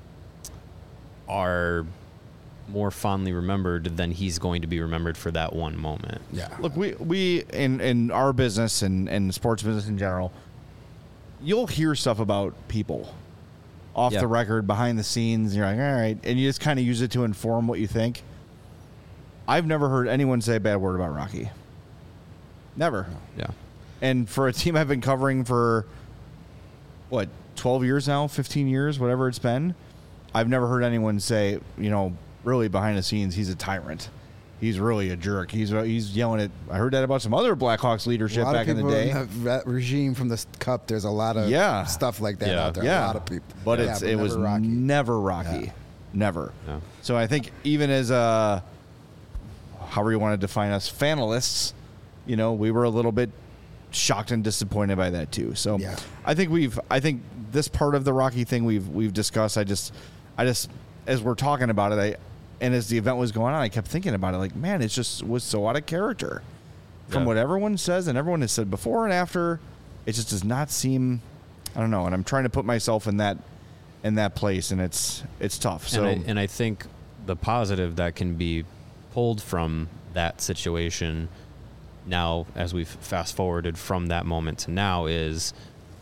are more fondly remembered than he's going to be remembered for that one moment. Yeah. Look, we we in in our business and and sports business in general, you'll hear stuff about people off Yeah. the record, behind the scenes. And you're like, all right, and you just kind of use it to inform what you think. I've never heard anyone say a bad word about Rocky. Never. Yeah. And for a team I've been covering for what, twelve years now, fifteen years, whatever it's been, I've never heard anyone say, you know, really behind the scenes, he's a tyrant. He's really a jerk. He's he's yelling at. I heard that about some other Blackhawks A leadership lot back of in the people day. in that regime from the cup. There's a lot of Yeah. stuff like that Yeah. out there. Yeah, A lot of people. but Yeah, it's but it never was Rocky. never Rocky, Yeah. never. No. So I think even as a, however you want to define us, fanalists, you know, we were a little bit shocked and disappointed by that too. So Yeah. I think we've, I think this part of the Rocky thing we've we've discussed. I just, I just as we're talking about it, I, and as the event was going on, I kept thinking about it. Like, man, it just was so out of character from Yeah. what everyone says and everyone has said before and after. It just does not seem. I don't know, and I'm trying to put myself in that in that place, and it's it's tough. So and, I, and I think the positive that can be pulled from that situation now, as we've fast forwarded from that moment to now, is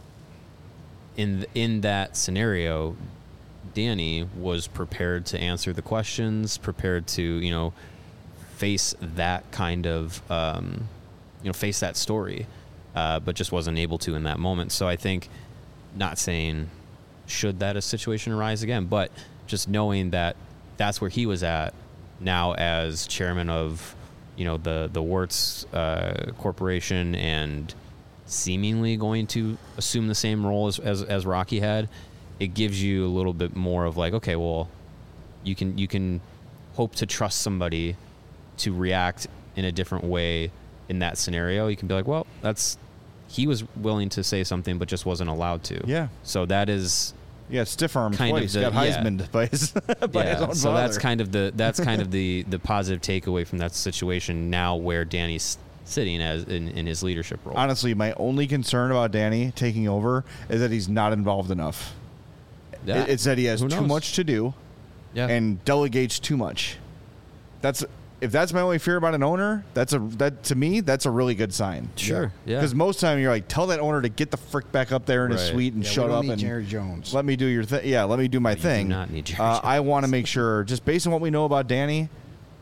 in in that scenario, Danny was prepared to answer the questions, prepared to, you know, face that kind of, um, you know, face that story, uh, but just wasn't able to in that moment. So I think, not saying should that a situation arise again, but just knowing that that's where he was at now as chairman of, you know, the the Wirtz uh, Corporation, and seemingly going to assume the same role as, as as Rocky had. It gives you a little bit more of like, okay, well, you can you can hope to trust somebody to react in a different way in that scenario. You can be like, well, that's he was willing to say something but just wasn't allowed to. Yeah. So that is Yeah, stiff arm Kind of twice. the- Got yeah. Heisman by his, by his Yeah, own so that's father. kind of the that's kind of the the positive takeaway from that situation. Now where Danny's sitting as in, in his leadership role. Honestly, my only concern about Danny taking over is that he's not involved enough. Yeah. It- It's that he has Who too knows? much to do yeah. and delegates too much. That's if that's my only fear about an owner. That's a that to me that's a really good sign. Sure. Yeah. Because most time you're like, tell that owner to get the frick back up there in his Right. suite and Yeah, we shut don't up need and Jerry Jones. let me do your thing. Yeah, let me do my You do thing. not need Jerry uh, Jones. I want to make sure, just based on what we know about Danny,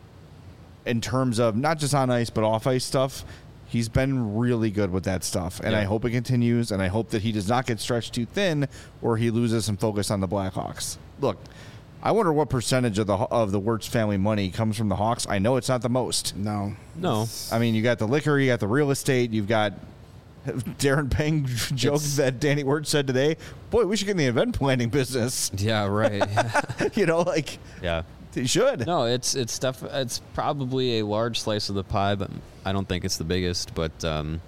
in terms of not just on ice but off ice stuff, he's been really good with that stuff, and Yeah. I hope it continues. And I hope that he does not get stretched too thin, or he loses some focus on the Blackhawks. Look, I wonder what percentage of the of the Wirtz family money comes from the Hawks. I know it's not the most. No. No. I mean, you got the liquor, you got the real estate, you've got Darren Pang joke It's- that Danny Wirtz said today. Boy, we should get in the event planning business. Yeah. Right. You know, like yeah. you should. No, it's it's stuff. It's probably a large slice of the pie, but I don't think it's the biggest. But um,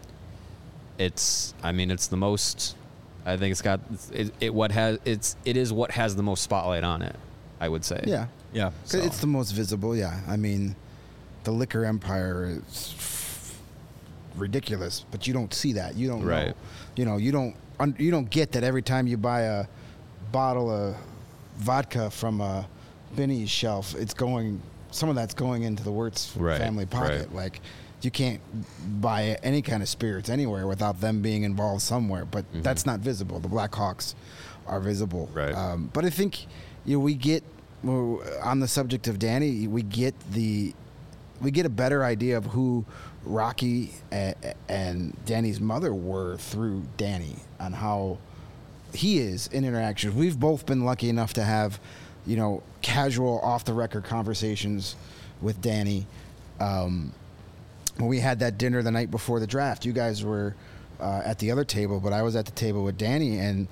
it's. I mean, it's the most. I think it's got it, it. What has it's. It is what has the most spotlight on it. I would say. Yeah. Yeah. 'Cause So. It's the most visible, yeah. I mean, the liquor empire is ridiculous, but you don't see that. You don't know. Right. You know, you don't un- you don't get that every time you buy a bottle of vodka from a Benny's shelf, it's going some of that's going into the Wirtz Right, family pocket. right. Like you can't buy any kind of spirits anywhere without them being involved somewhere, but that's not visible. The Blackhawks are visible. Right. Um, but I think you know we get well, on the subject of Danny, we get the we get a better idea of who Rocky and, and Danny's mother were through Danny on how he is in interactions. We've both been lucky enough to have, you know, casual off the record conversations with Danny. Um, when we had that dinner the night before the draft, you guys were uh, at the other table, but I was at the table with Danny, and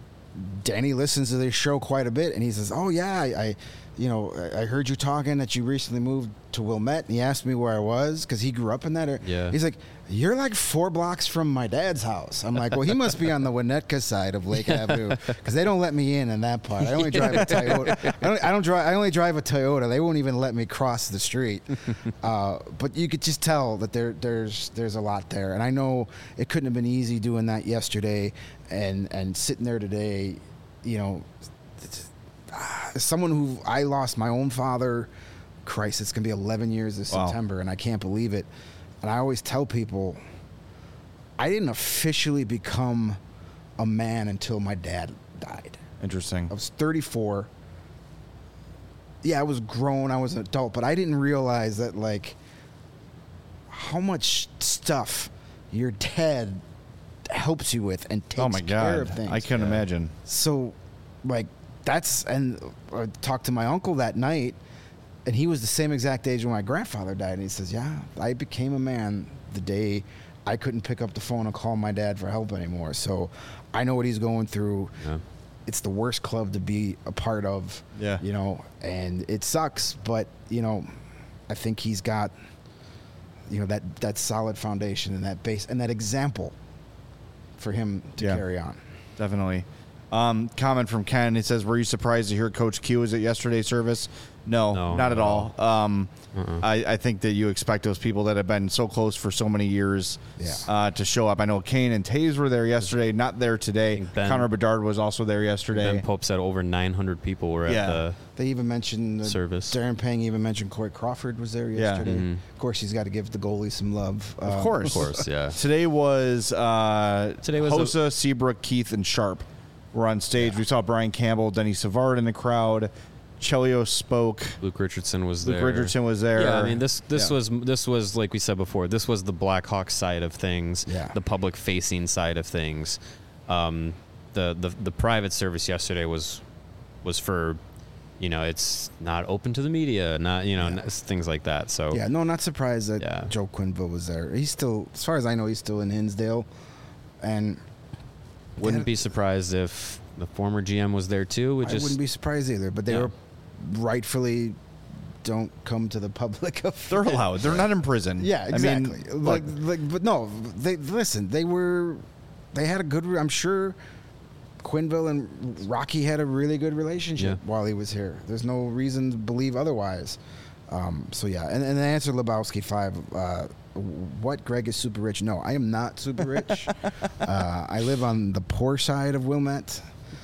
Danny listens to this show quite a bit, and he says, "Oh yeah, I, I you know, I I heard you talking that you recently moved to Wilmette." And he asked me where I was because he grew up in that area. Yeah. He's like, "You're like four blocks from my dad's house." I'm like, "Well, he must be on the Winnetka side of Lake Avenue because they don't let me in in that part. I only drive a Toyota. I don't, I don't drive. I only drive a Toyota. They won't even let me cross the street." Uh, but you could just tell that there, there's, there's a lot there, and I know it couldn't have been easy doing that yesterday, and and sitting there today, you know. As someone who I lost my own father, Christ, it's gonna be eleven years this Wow. September, and I can't believe it. And I always tell people, I didn't officially become a man until my dad died. Interesting. I was thirty-four. Yeah, I was grown, I was an adult, but I didn't realize that, like, how much stuff your dad helps you with and takes Oh my care of God. things. I couldn't imagine. So, like, that's, and I talked to my uncle that night, and he was the same exact age when my grandfather died. And he says, "Yeah, I became a man the day I couldn't pick up the phone and call my dad for help anymore." So I know what he's going through. Yeah. It's the worst club to be a part of. Yeah. You know, and it sucks, but, you know, I think he's got, you know, that, that solid foundation and that base and that example for him to Yeah. carry on. Definitely. Um, comment from Ken. He says, "Were you surprised to hear Coach Q was at yesterday's service?" No, No, not at not all. Um, Uh-uh. I, I think that you expect those people that have been so close for so many years Yeah. uh, to show up. I know Kane and Taves were there yesterday, not there today. think Ben- Connor Bedard was also there yesterday. Ben Pope said over nine hundred people were Yeah. at the. They even mentioned uh, Service. Darren Pang even mentioned Corey Crawford was there Yeah. yesterday. Mhm. Of course, he's got to give the goalie some love. Of Uh, course. Of course, yeah. Today was uh, Today was a- Hossa, Seabrook, Keith, and Sharp were on stage. We saw Brian Campbell, Denny Savard in the crowd. Chelio spoke. Luke Richardson was Luke there. Richardson was there. Yeah, I mean this this Yeah. was this was like we said before. This was the Blackhawks side of things. Yeah. The public facing side of things. Um, the, the the private service yesterday was was for, you know, it's not open to the media, not you know Yeah. n- things like that. So Yeah, no, not surprised that Yeah. Joe Quinville was there. He's still, as far as I know, he's still in Hinsdale, and wouldn't Yeah. be surprised if the former G M was there too. It I just wouldn't be surprised either. But they Yeah. were rightfully don't come to the public. Of They're allowed. They're not in prison. Yeah, I exactly. mean, like, look, like, but no, they listen. They were, they had a good. re- I'm sure Quinville and Rocky had a really good relationship Yeah. while he was here. There's no reason to believe otherwise. Um, so yeah, and, and the answer Lebowski five. Uh, what, Greg is super rich? No, I am not super rich. uh, I live on the poor side of Wilmette.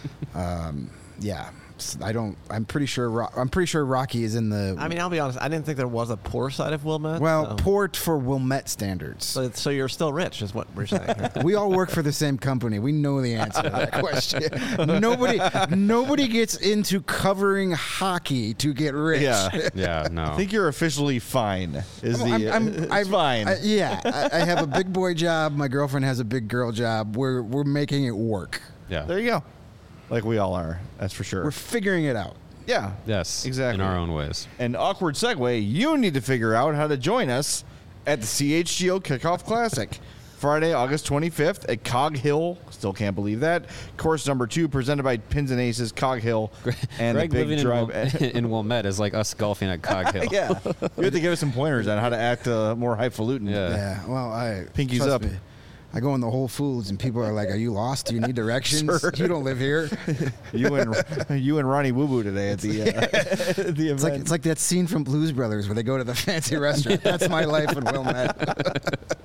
Um, yeah. I don't. I'm pretty sure. Ro- I'm pretty sure Rocky is in the. I mean, I'll be honest. I didn't think there was a poor side of Wilmette. well, so. poor for Wilmette standards. So, so you're still rich, is what we're saying. We all work for the same company. We know the answer to that question. nobody, nobody gets into covering hockey to get rich. Yeah. Yeah, no. I think you're officially fine. Is I'm- the I'm- it's I'm- fine. I- yeah, I, I have a big boy job. My girlfriend has a big girl job. We're we're making it work. yeah. there you go. Like we all are. That's for sure. We're figuring it out. yeah. Yes. Exactly. In our own ways. An awkward segue. You need to figure out how to join us at the C H G O Kickoff Classic. Friday, August twenty-fifth at Cog Hill. Still can't believe that. Course number two, presented by Pins and Aces, Cog Hill, and Greg the big living drive. in, Wil- in Wilmette is like us golfing at Cog Hill. yeah, you have to give us some pointers on how to act uh, more highfalutin. Yeah. Yeah. Well, I Pinkies trust up. me, I go in the Whole Foods and people are like, "Are you lost? Do you need directions? Sir. You don't live here." You and you and Ronnie Woo Boo today at the uh, at the event. It's like it's like that scene from Blues Brothers where they go to the fancy restaurant. That's my life in Wilmette.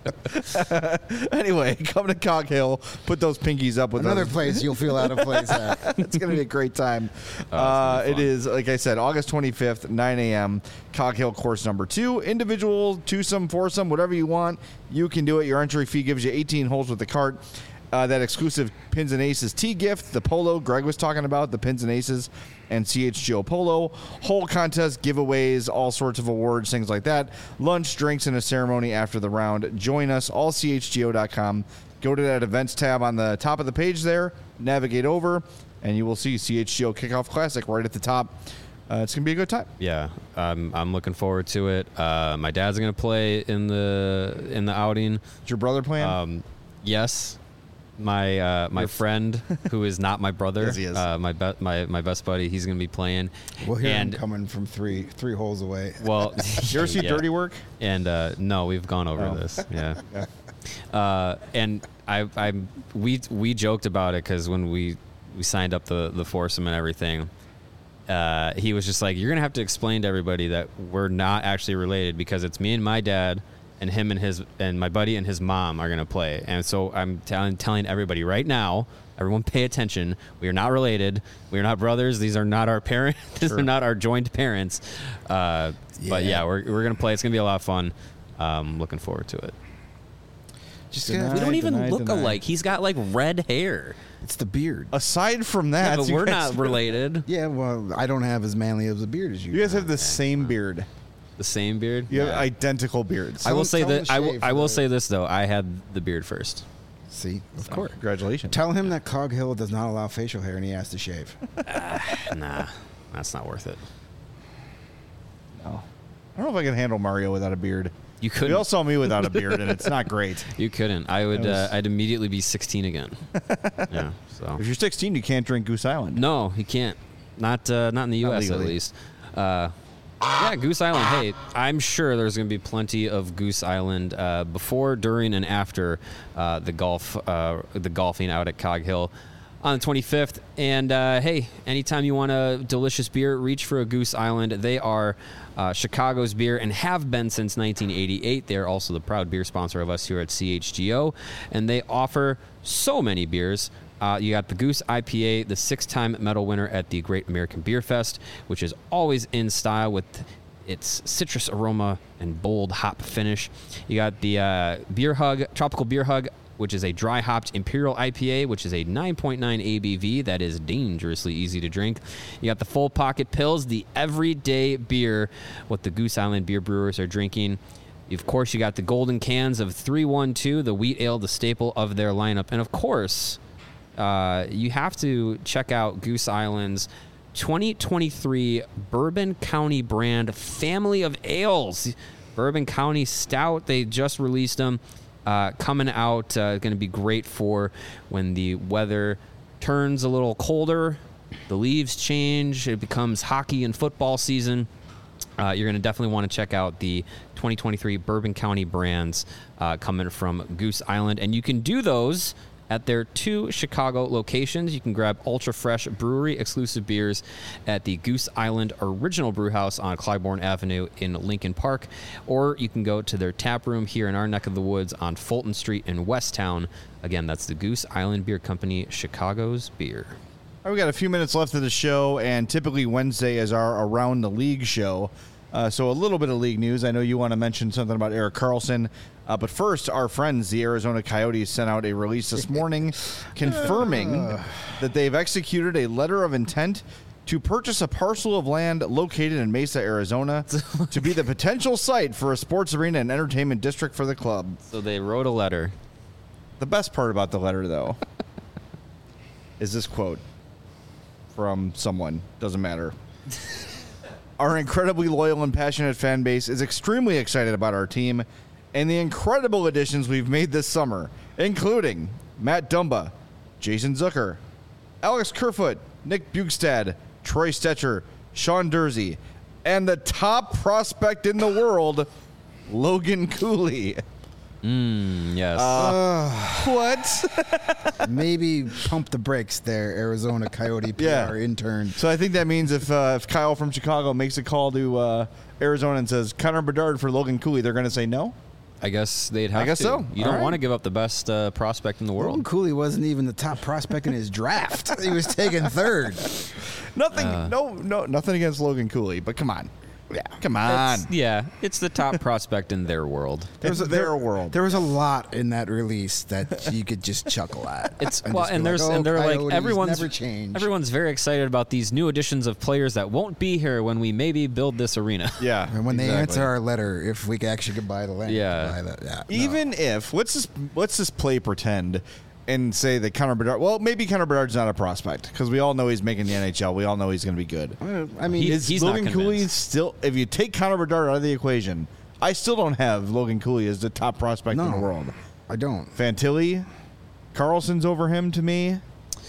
Anyway, come to Cog Hill. Put those pinkies up with Another us. place you'll feel out of place at. It's going to be a great time. Oh, uh, it's gonna be it fun. is, like I said, August twenty-fifth, nine a.m., Cog Hill course number two. Individual, twosome, foursome, whatever you want, you can do it. Your entry fee gives you eighteen holes with the cart. Uh, that exclusive Pins and Aces tee gift, the polo Greg was talking about, the Pins and Aces and C H G O polo, whole contest, giveaways, all sorts of awards, things like that. Lunch, drinks, and a ceremony after the round. Join us, all C H G O dot com. Go to that events tab on the top of the page there, navigate over, and you will see C H G O Kickoff Classic right at the top. Uh, it's going to be a good time. Yeah, I'm I'm looking forward to it. Uh, my dad's gonna play in the in the outing. Is your brother playing? Um, yes, my uh, my friend who is not my brother, Yes, he is. Uh, my be- my my best buddy, he's gonna be playing. We'll hear and him coming from three three holes away. well, you ever see yeah. Dirty Work? And uh, no, we've gone over Oh. this. Yeah. Uh, and I, I, we, we joked about it because when we, we signed up the, the foursome and everything, uh, he was just like, "You're gonna have to explain to everybody that we're not actually related because it's me and my dad, and him and his and my buddy and his mom are gonna play." And so I'm telling telling everybody right now. Everyone pay attention. We are not related. We are not brothers. These are not our parents. These Sure. are not our joint parents. Uh, But Yeah. yeah, we're, we're going to play. It's going to be a lot of fun. Um, looking forward to it. Just Deny, gonna, We don't even deny, look deny. alike. He's got like red hair. it's the beard. Aside from Yeah, that, but you we're guys- not related. Yeah, well, I don't have as manly of a beard as you. You guys have the same beard. The same beard. You have Yeah. identical beards. I will Tell- say tell him that to I will. shave I for will the- say this though. I had the beard first. See, of So. course. Congratulations. Tell him that Cog Hill does not allow facial hair and he has to shave. Nah, that's not worth it. No. I don't know if I can handle Mario without a beard. You You couldn't. all saw me without a beard, and it's not great. You couldn't. I would. That was- Uh, I'd immediately be sixteen again. Yeah. So. If you're sixteen, you can't drink Goose Island. No, he can't. Not uh, not in the U Not S at legally. least. Uh, yeah, Goose Island. Hey, I'm sure there's going to be plenty of Goose Island uh, before, during, and after uh, the golf, uh, the golfing out at Cog Hill on the twenty-fifth. And uh, hey, anytime you want a delicious beer, reach for a Goose Island. They are uh, Chicago's beer and have been since nineteen eighty-eight. They are also the proud beer sponsor of us here at C H G O, and they offer so many beers. Uh, you got the Goose I P A, the six-time medal winner at the Great American Beer Fest, which is always in style with its citrus aroma and bold hop finish. You got the uh, Beer Hug, Tropical Beer Hug, which is a dry-hopped Imperial I P A, which is a nine point nine A B V. That is dangerously easy to drink. You got the Full Pocket Pills, the everyday beer, what the Goose Island beer brewers are drinking. Of course, you got the golden cans of three one two, the wheat ale, the staple of their lineup. And of course, uh, you have to check out Goose Island's twenty twenty-three Bourbon County brand family of ales. Bourbon County Stout, they just released them. Uh, coming out, uh, going to be great for when the weather turns a little colder, the leaves change, it becomes hockey and football season. Uh, you're going to definitely want to check out the twenty twenty-three Bourbon County brands uh, coming from Goose Island. And you can do those At their two Chicago locations, you can grab ultra-fresh brewery-exclusive beers at the Goose Island Original Brewhouse on Clybourne Avenue in Lincoln Park, or you can go to their tap room here in our neck of the woods on Fulton Street in Westtown. Again, that's the Goose Island Beer Company, Chicago's beer. All right, we got a few minutes left of the show, and typically Wednesday is our Around the League show. Uh, so a little bit of league news. I know you want to mention something about Erik Karlsson. Uh, but first, our friends, the Arizona Coyotes, sent out a release this morning confirming that they've executed a letter of intent to purchase a parcel of land located in Mesa, Arizona, to be the potential site for a sports arena and entertainment district for the club. So they wrote a letter. The best part about the letter, though, is this quote from someone. Doesn't matter. Our incredibly loyal and passionate fan base is extremely excited about our team and the incredible additions we've made this summer, including Matt Dumba, Jason Zucker, Alex Kerfoot, Nick Bugstad, Troy Stetcher, Sean Dursey, and the top prospect in the world, Logan Cooley. Mm, yes. Uh, what? Maybe pump the brakes there, Arizona Coyote P R Yeah. intern. So I think that means if uh, if Kyle from Chicago makes a call to uh, Arizona and says Connor Bedard for Logan Cooley, they're going to say no? I guess they'd have I guess to. so. You All don't right. want to give up the best uh, prospect in the Logan world. Cooley wasn't even the top prospect in his draft. He was taken third. Nothing, Uh. no, no, nothing against Logan Cooley, but come on. Yeah, come on. It's- yeah, it's the top prospect in their world. There's a, their world. There was a lot in that release that you could just chuckle at. It's and well, just be and like, there's "Oh, and they're like Coyotes everyone's never change. everyone's very excited about these new additions of players that won't be here when we maybe build this arena. yeah. And when they exactly. answer our letter, if we actually could buy the land, Yeah. buy the, yeah no. Even if let's just let's just play pretend and say that Connor Bedard. Well, maybe Connor Bedard's not a prospect because we all know he's making the N H L. We all know he's going to be good. I mean, He- Is he's not Logan Cooley convinced. still? If you take Connor Bedard out of the equation, I still don't have Logan Cooley as the top prospect no, in the world. I don't. Fantilli, Carlson's over him to me.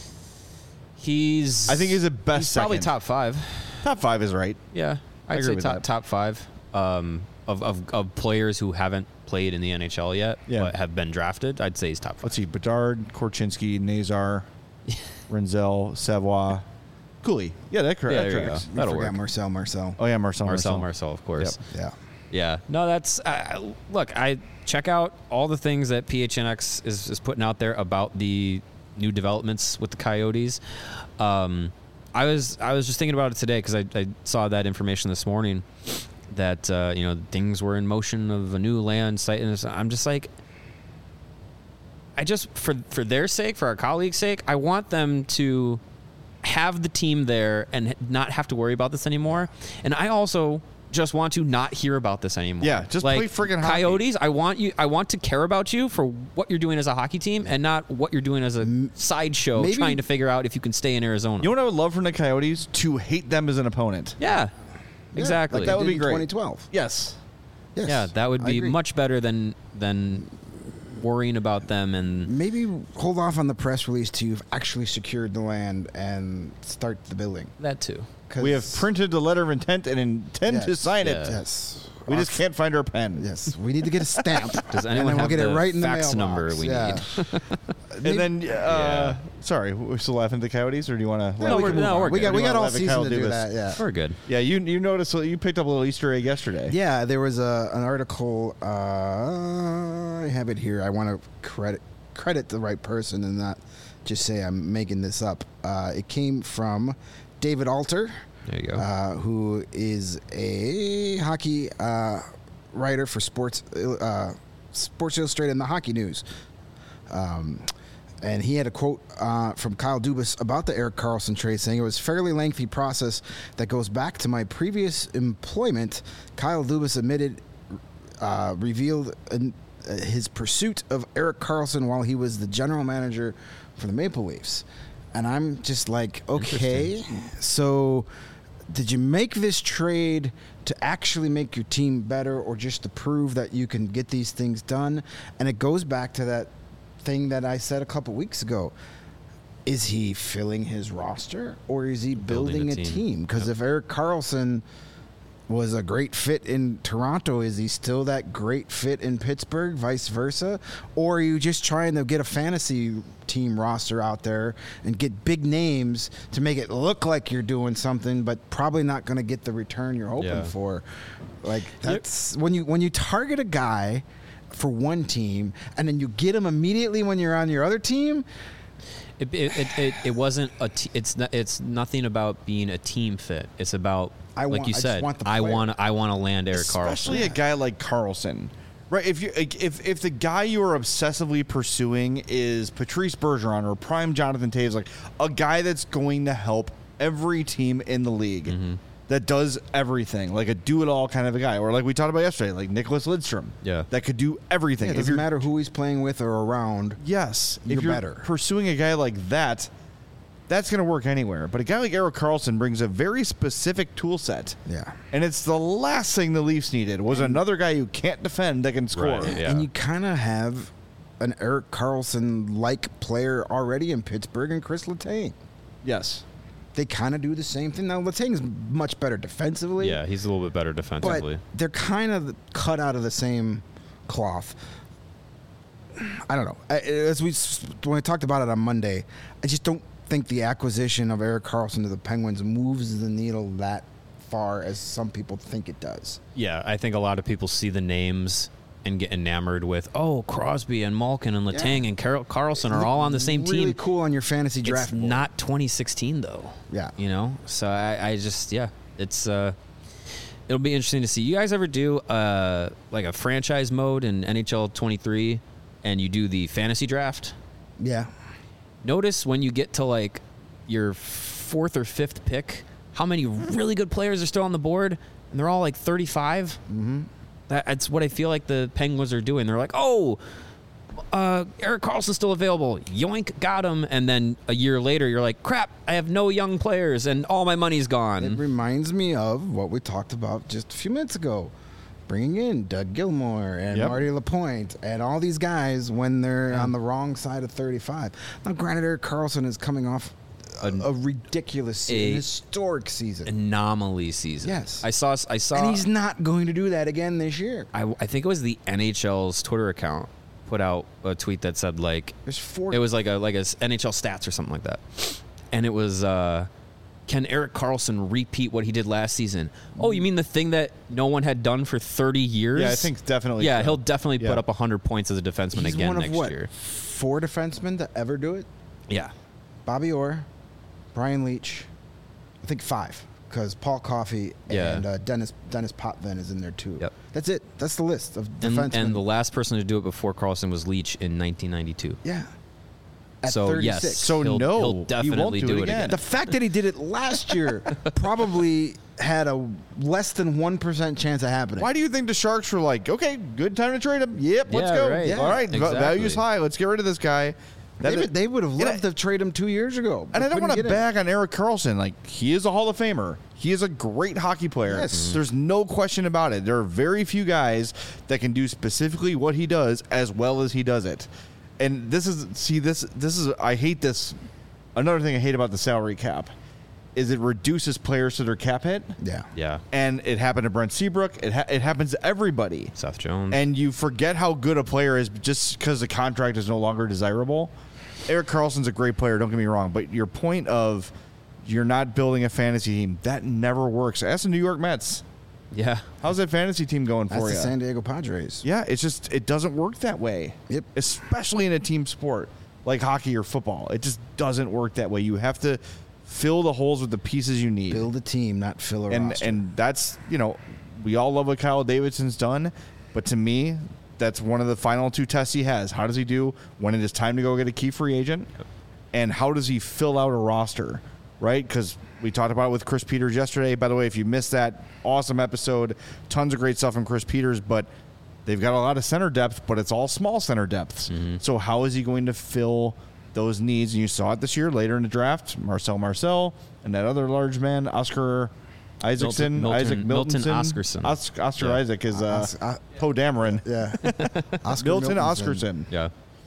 He's I think he's the best he's probably second. top five. Top five is right. Yeah, I I'd agree say with top that. top five um, of, of of players who haven't played in the N H L yet, Yeah. but have been drafted. I'd say he's top five. Let's see: Bedard, Korchinski, Nazar, Renzel, Savoie, Cooley. Yeah, that, cor- Yeah, that there you tracks. go. You That'll forgot work. Marcel Marcel. Oh yeah, Marcel. Marcel, Marcel, Marcel, of course. Yeah. Yeah, no, that's uh, look. I check out all the things that P H N X is, is putting out there about the new developments with the Coyotes. Um, I was I was just thinking about it today because I, I saw that information this morning that uh, you know things were in motion of a new land site, and I'm just like, I just for for their sake, for our colleagues' sake, I want them to have the team there and not have to worry about this anymore. And I also just want to not hear about this anymore. Yeah, just like, play friggin' hockey. Coyotes. I want you. I want to care about you for what you're doing as a hockey team, and not what you're doing as a sideshow maybe- trying to figure out if you can stay in Arizona. You know what I would love from the Coyotes? To hate them as an opponent. yeah, exactly. like that would be in great. twenty twelve. Yes. Yes, yeah, that would I be agree. much better than than worrying about them and Maybe hold off on the press release till you've actually secured the land and start the building. that too. 'Cause- We have printed the letter of intent and intend to Yes. sign Yeah. it. Yes. We just can't find our pen. Yes, we need to get a stamp. Does and anyone then we'll have get the it right in the fax mailbox. number we yeah. And then, uh, sorry, we're still laughing at the Coyotes, or do you want to? No, we're- no, we're we good. got we You got wanna all laugh at season Kyle to do Dubas? that. Yeah. We're good. Yeah, you you noticed you picked up a little Easter egg yesterday. Yeah, there was a an article. Uh, I have it here. I want to credit credit the right person and not just say I'm making this up. Uh, it came from David Alter, There you go. uh, who is a hockey uh, writer for Sports uh, Sports Illustrated and the Hockey News. Um, and he had a quote uh, from Kyle Dubas about the Erik Karlsson trade, saying it was a fairly lengthy process that goes back to my previous employment. Kyle Dubas admitted, uh, revealed uh, his pursuit of Erik Karlsson while he was the general manager for the Maple Leafs. And I'm just like, okay, so did you make this trade to actually make your team better or just to prove that you can get these things done? And it goes back to that thing that I said a couple weeks ago. Is he filling his roster or is he building, Building a a team. team? Because if Erik Karlsson was a great fit in Toronto, is he still that great fit in Pittsburgh, vice versa? Or are you just trying to get a fantasy team roster out there and get big names to make it look like you're doing something, but probably not going to get the return you're hoping Yeah. for? Like, that's when you when you target a guy for one team and then you get him immediately when you're on your other team. It it, it, it, it wasn't a t- it's not, it's nothing about being a team fit. It's about I like want- you I just said. want the I player. want I want to land Eric Carlson. Especially a guy like Carlson, right? If you like, if if the guy you are obsessively pursuing is Patrice Bergeron or prime Jonathan Toews, like a guy that's going to help every team in the league, Mm-hmm. that does everything, like a do-it-all kind of a guy, or like we talked about yesterday, like Nicholas Lidstrom, Yeah. that could do everything. Yeah, it If doesn't you're- matter who he's playing with or around. Yes, You're if you're better. pursuing a guy like that, that's going to work anywhere. But a guy like Eric Carlson brings a very specific tool set. Yeah. And it's the last thing the Leafs needed was another guy who can't defend that can score. Right, yeah. And you kind of have an Eric Carlson-like player already in Pittsburgh and Chris Letang. Yes. They kind of do the same thing. Now, Letang's much better defensively. Yeah, he's a little bit better But defensively. they're kind of cut out of the same cloth. I don't know. I- As we when we talked about it on Monday, I just don't think the acquisition of Eric Carlson to the Penguins moves the needle that far as some people think it does. Yeah, I think a lot of people see the names and get enamored with, oh, Crosby and Malkin and Letang Yeah. and Carl- Carlson are all on the same really team. cool on your fantasy draft It's board. not twenty sixteen though. Yeah. You know, so I, I just yeah, it's uh, it'll be interesting to see. You guys ever do uh like a franchise mode in N H L twenty-three, and you do the fantasy draft? Yeah. Notice when you get to like your fourth or fifth pick, how many really good players are still on the board, and they're all like thirty-five. Mm-hmm. That, that's what I feel like the Penguins are doing. They're like, oh, uh, Eric Carlson's still available. Yoink, got him. And then a year later, you're like, crap, I have no young players, and all my money's It gone. reminds me of what we talked about just a few minutes ago. Bringing in Doug Gilmour and Yep. Marty Lapointe and all these guys when they're on the wrong side of thirty-five. Now, granted, Eric Carlson is coming off a, a ridiculous season, a- a historic season. Anomaly season. Yes. I saw. I saw. And he's not going to do that again this year. I, I think it was the N H L's Twitter account put out a tweet that said like There's four. it was like a like a s- N H L stats or something like that, and it was uh, can Eric Carlson repeat what he did last season? Oh, you mean the thing that no one had done for thirty years? Yeah, I think definitely Yeah, so. he'll definitely Yeah. put up one hundred points as a defenseman He's again one of next what? year. Four defensemen to ever do it? Yeah, Bobby Orr, Brian Leach, I think five, because Paul Coffey Yeah. and uh, Dennis Dennis Potvin is in there too. Yep. That's it. That's the list of and, defensemen. and the last person to do it before Carlson was Leach in nineteen ninety-two. yeah. At So thirty-six. yes, So he'll, no, he'll he definitely won't do do it it again. again. The fact that he did it last year probably had a less than one percent chance of happening. Why do you think the Sharks were like, okay, good time to trade him? Yep, let's Yeah, go. right. All right, Exactly. value's high. Let's get rid of this guy. They, That- would, they would have And loved I- to trade him two years ago. And I don't want to get him. bag on Eric Carlson. Like, he is a Hall of Famer. He is a great hockey player. Yes. There's no question about it. There are very few guys that can do specifically what he does as well as he does it. And this is, see, this, this is, I hate this. Another thing I hate about the salary cap is it reduces players to their cap hit. Yeah. Yeah, And it happened to Brent Seabrook. It, ha- it happens to everybody. Seth Jones. And you forget how good a player is just because the contract is no longer desirable. Eric Carlson's a great player, don't get me wrong, but your point of you're not building a fantasy team, that never works. Ask the New York Mets. yeah, How's that fantasy team going That's for the you? San Diego Padres. Yeah, it's just, it doesn't work that way. Yep. Especially in a team sport like hockey or football. It just doesn't work that way. You have to fill the holes with the pieces you need. Build a team, not fill a and roster. and that's, you know, we all love what Kyle Davidson's done, but to me, that's one of the final two tests he has. How does he do when it is time to go get a key free agent, and how does he fill out a roster, right? Because we talked about it with Chris Peters yesterday. By the way, if you missed that awesome episode, tons of great stuff from Chris Peters, but they've got a lot of center depth, but it's all small center depths. So how is he going to fill those needs? And you saw it this year later in the draft. Marcel Marcel and that other large man, Oscar Isaacson, Milton- Isaac Milton Miltonson. Oscarson. Os- Oscar Yeah. Isaac is uh, Os- uh, Poe Dameron. yeah. Oscar Milton Miltonson. Oscarson. yeah.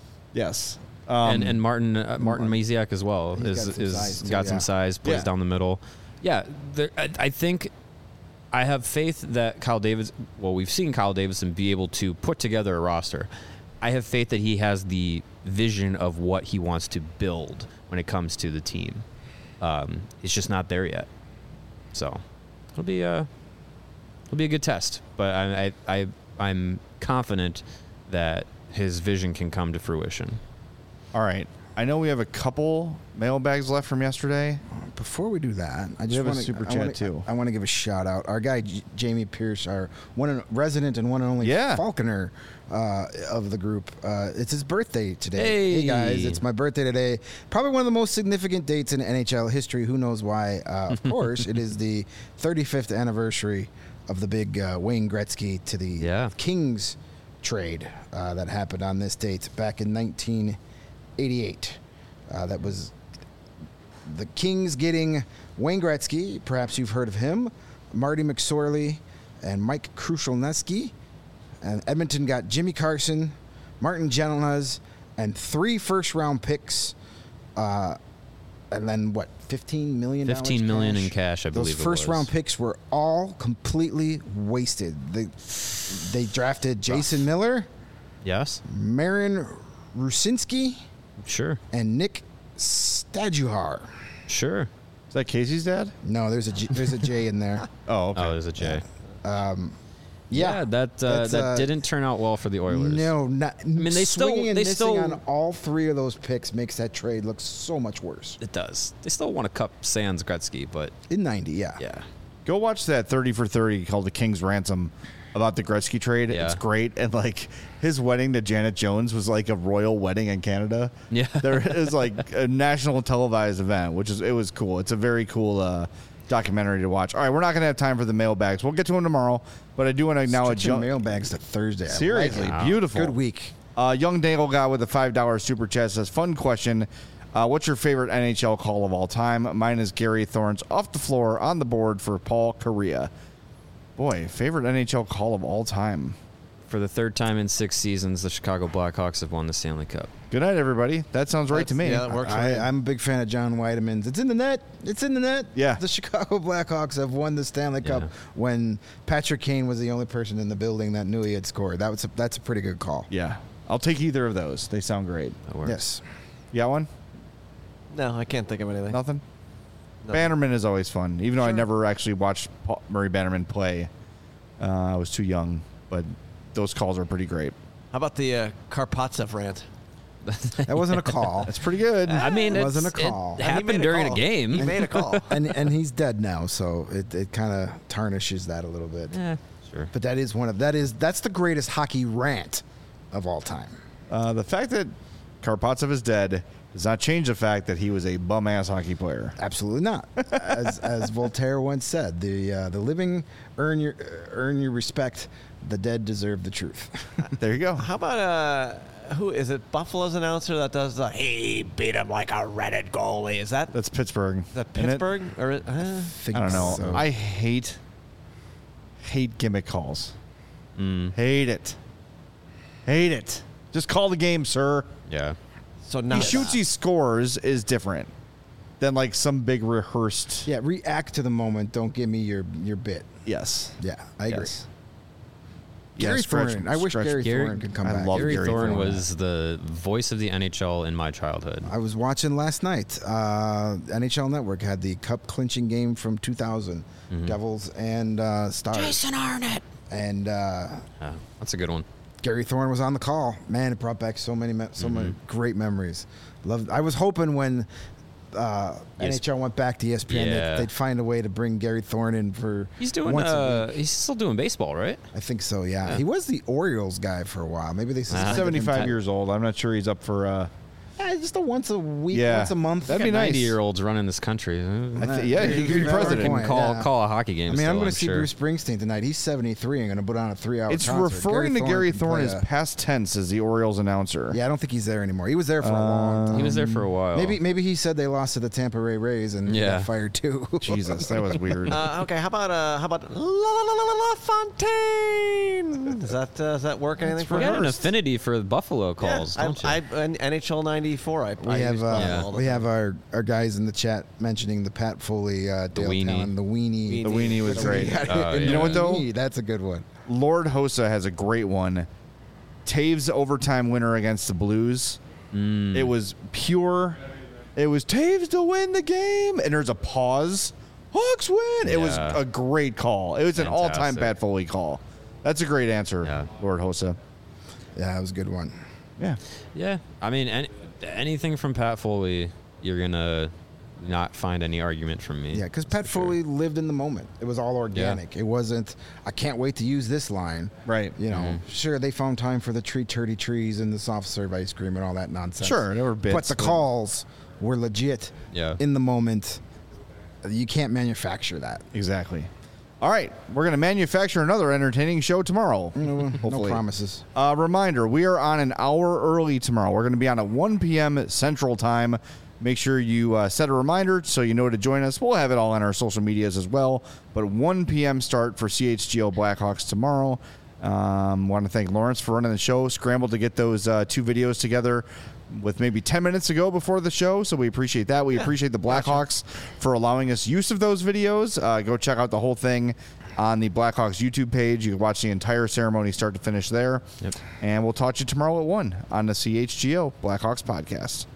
Yes. Um, and and Martin uh, Martin Maziak as well He's is got some is size, too, got yeah. some size, plays Yeah. down the middle. Yeah, there, I, I think I have faith that Kyle Davis. Well, we've seen Kyle Davidson be able to put together a roster. I have faith that he has the vision of what he wants to build when it comes to the team. Um, it's just not there yet. So it'll be a it'll be a good test. But I, I, I I'm confident that his vision can come to fruition. All right. I know we have a couple mailbags left from yesterday. Before we do that, I just have a want to super I chat, wanna, too. I want to give a shout out. Our guy J- Jamie Pierce, our one and, resident and one and only Yeah. Falconer uh, of the group. Uh, it's his birthday today. Hey. guys, it's my birthday today. Probably one of the most significant dates in N H L history. Who knows why? Uh, of course, it is the thirty-fifth anniversary of the big uh, Wayne Gretzky to the Yeah. Kings trade uh, that happened on this date back in nineteen eighty-eight. Uh, that was the Kings getting Wayne Gretzky, perhaps you've heard of him, Marty McSorley, and Mike Krushelneski. And Edmonton got Jimmy Carson, Martin Gentlenaz, and three first-round picks. Uh, and then, what, fifteen million dollars Fifteen million in cash, I Those believe. it first-round was. picks were all completely wasted. They, they drafted Jason Miller, Yes, Marin Rusinski, sure, and Nick Stajuhar. sure. Is that Casey's dad? No, there's a G, there's a J in there. Oh, okay. Oh, there's a J. Yeah, that uh, that's, that uh, didn't turn out well for the Oilers. No, not, I mean, they still- and they missing still- on all three of those picks makes that trade look so much worse. It does. They still want to cup Sans Gretzky, but In ninety, yeah. yeah. Go watch that thirty for thirty called The King's Ransom about the Gretzky trade. Yeah. It's great. And like his wedding to Janet Jones was like a royal wedding in Canada. Yeah. There is like a national televised event, which is, it was cool. It's a very cool uh, documentary to watch. All right, we're not going to have time for the mailbags. We'll get to them tomorrow, but I do want to acknowledge Stretching Young, mailbags to Thursday. I like seriously, it. beautiful. Good week. Uh, Young Dangle guy with a five dollar super chat says, fun question. Uh, what's your favorite N H L call of all time? Mine is Gary Thorne's off the floor on the board for Paul Kariya. Boy, favorite N H L call of all time. For the third time in six seasons, the Chicago Blackhawks have won the Stanley Cup. Good night, everybody. That sounds right to me. Yeah, that works. for I, me. I'm a big fan of John Weideman's. It's in the net. It's in the net. Yeah. The Chicago Blackhawks have won the Stanley Cup Yeah. when Patrick Kane was the only person in the building that knew he had scored. That was a, that's a pretty good call. Yeah. I'll take either of those. They sound great. That works. Yes. You got one? No, I can't think of anything. Nothing? Nothing. Bannerman is always fun. Even though I Sure. never actually watched Paul, Murray Bannerman play. Uh, I was too young, but those calls are pretty great. How about the uh, Karpatsev rant? That wasn't a call. That's pretty good. I mean, It it's, wasn't a call. It And he And he happened made a during a call. game. He made a call. and and he's dead now, so it, it kind of tarnishes that a little bit. Yeah, sure. But that is one of that is that's the greatest hockey rant of all time. Uh, the fact that Karpatsev is dead does not change the fact that he was a bum-ass hockey player. Absolutely not. As as Voltaire once said, the uh, the living earn your uh, earn your respect. The dead deserve the truth. There you go. How about uh, who is it? Buffalo's announcer that does the he beat him like a Reddit goalie. Is that That's Pittsburgh. is that isn't it? Pittsburgh or uh, I don't know. So. I hate hate gimmick calls. Mm, Hate it. Hate it. Just call the game, sir. yeah. so now He shoots, he scores is different than like some big rehearsed. Yeah, react to the moment. Don't give me your your bit. Yes. Yeah, I agree. Yes. Gary Yeah, stretch- Thorne. I wish stretch- Gary, Gary- Thorne could come I back. love Gary, Gary Thorne Thorne. was the voice of the N H L in my childhood. I was watching last night. Uh, N H L Network had the cup clinching game from two thousand, Mm-hmm. Devils and uh, Stars. Jason Arnott. And uh, Yeah, that's a good one. Gary Thorne was on the call. Man, it brought back so many, me- so many great memories. Loved. I was hoping when uh, N H L went back to E S P N Yeah. that they'd find a way to bring Gary Thorne in for. He's doing. Once a Uh, week. he's still doing baseball, right? I think so. Yeah. Yeah. He was the Orioles guy for a while. Maybe they. Uh-huh. suspended him seventy-five ten- years old. I'm not sure he's up for. Uh, Yeah, just a once a week, Yeah. once a month. That'd be Got nice. ninety-year-olds running this country. I thi- yeah, he could be Good president. point. Call yeah. call a hockey game. I mean, still, I'm going to see sure. Bruce Springsteen tonight. He's seventy-three and going to put on a three-hour it's concert. referring to Gary can Thorne play as a- past tense as the Orioles announcer. Yeah, I don't think he's there anymore. He was there for a long time. He was there for a while. Maybe maybe he said they lost to the Tampa Bay Rays and he Yeah. got fired too. Jesus, that was weird. Uh, okay, how about uh, how about La La La La La Fontaine? Does that uh, does that work anything for You got an you? affinity for the Buffalo calls, Yeah, don't you? I, I, N H L ninety. ninety-four. I, We I have used uh, Buffalo Yeah. all the we time. have our, our guys in the chat mentioning the Pat Foley uh, Dale weenie. Talon, the weenie. The weenie was great. Oh, You yeah. know what, though? Weenie, that's a good one. Lord Hossa has a great one. Taves overtime winner against the Blues. Mm. It was pure. It was Taves to win the game, and there's a pause. Hawks win. It was Yeah. a great call. It was an all-time Fantastic. Pat Foley call. That's a great answer, Yeah. Lord Hossa. Yeah, that was a good one. Yeah. Yeah, I mean, any, anything from Pat Foley, you're gonna not find any argument from me. Yeah, because That's Pat for sure. Foley lived in the moment. It was all organic. It wasn't, I can't wait to use this line. Right. You know, Mhm. sure, they found time for the tree turdy trees and the soft serve ice cream and all that nonsense. Sure, there were bits, But the but- calls were legit Yeah. in the moment. You can't manufacture that. Exactly. All right, we're going to manufacture another entertaining show tomorrow. No, no Hopefully. promises. Uh, reminder, we are on an hour early tomorrow. We're going to be on at one p.m. Central Time. Make sure you uh, set a reminder so you know to join us. We'll have it all on our social medias as well. But one p.m. start for C H G O Blackhawks tomorrow. Um, want to thank Lawrence for running the show. Scrambled to get those uh, two videos together with maybe ten minutes ago before the show, so we appreciate that. We appreciate the Blackhawks for allowing us use of those videos. Uh, go check out the whole thing on the Blackhawks YouTube page. You can watch the entire ceremony start to finish there. Yep. And we'll talk to you tomorrow at one on the C H G O Blackhawks podcast.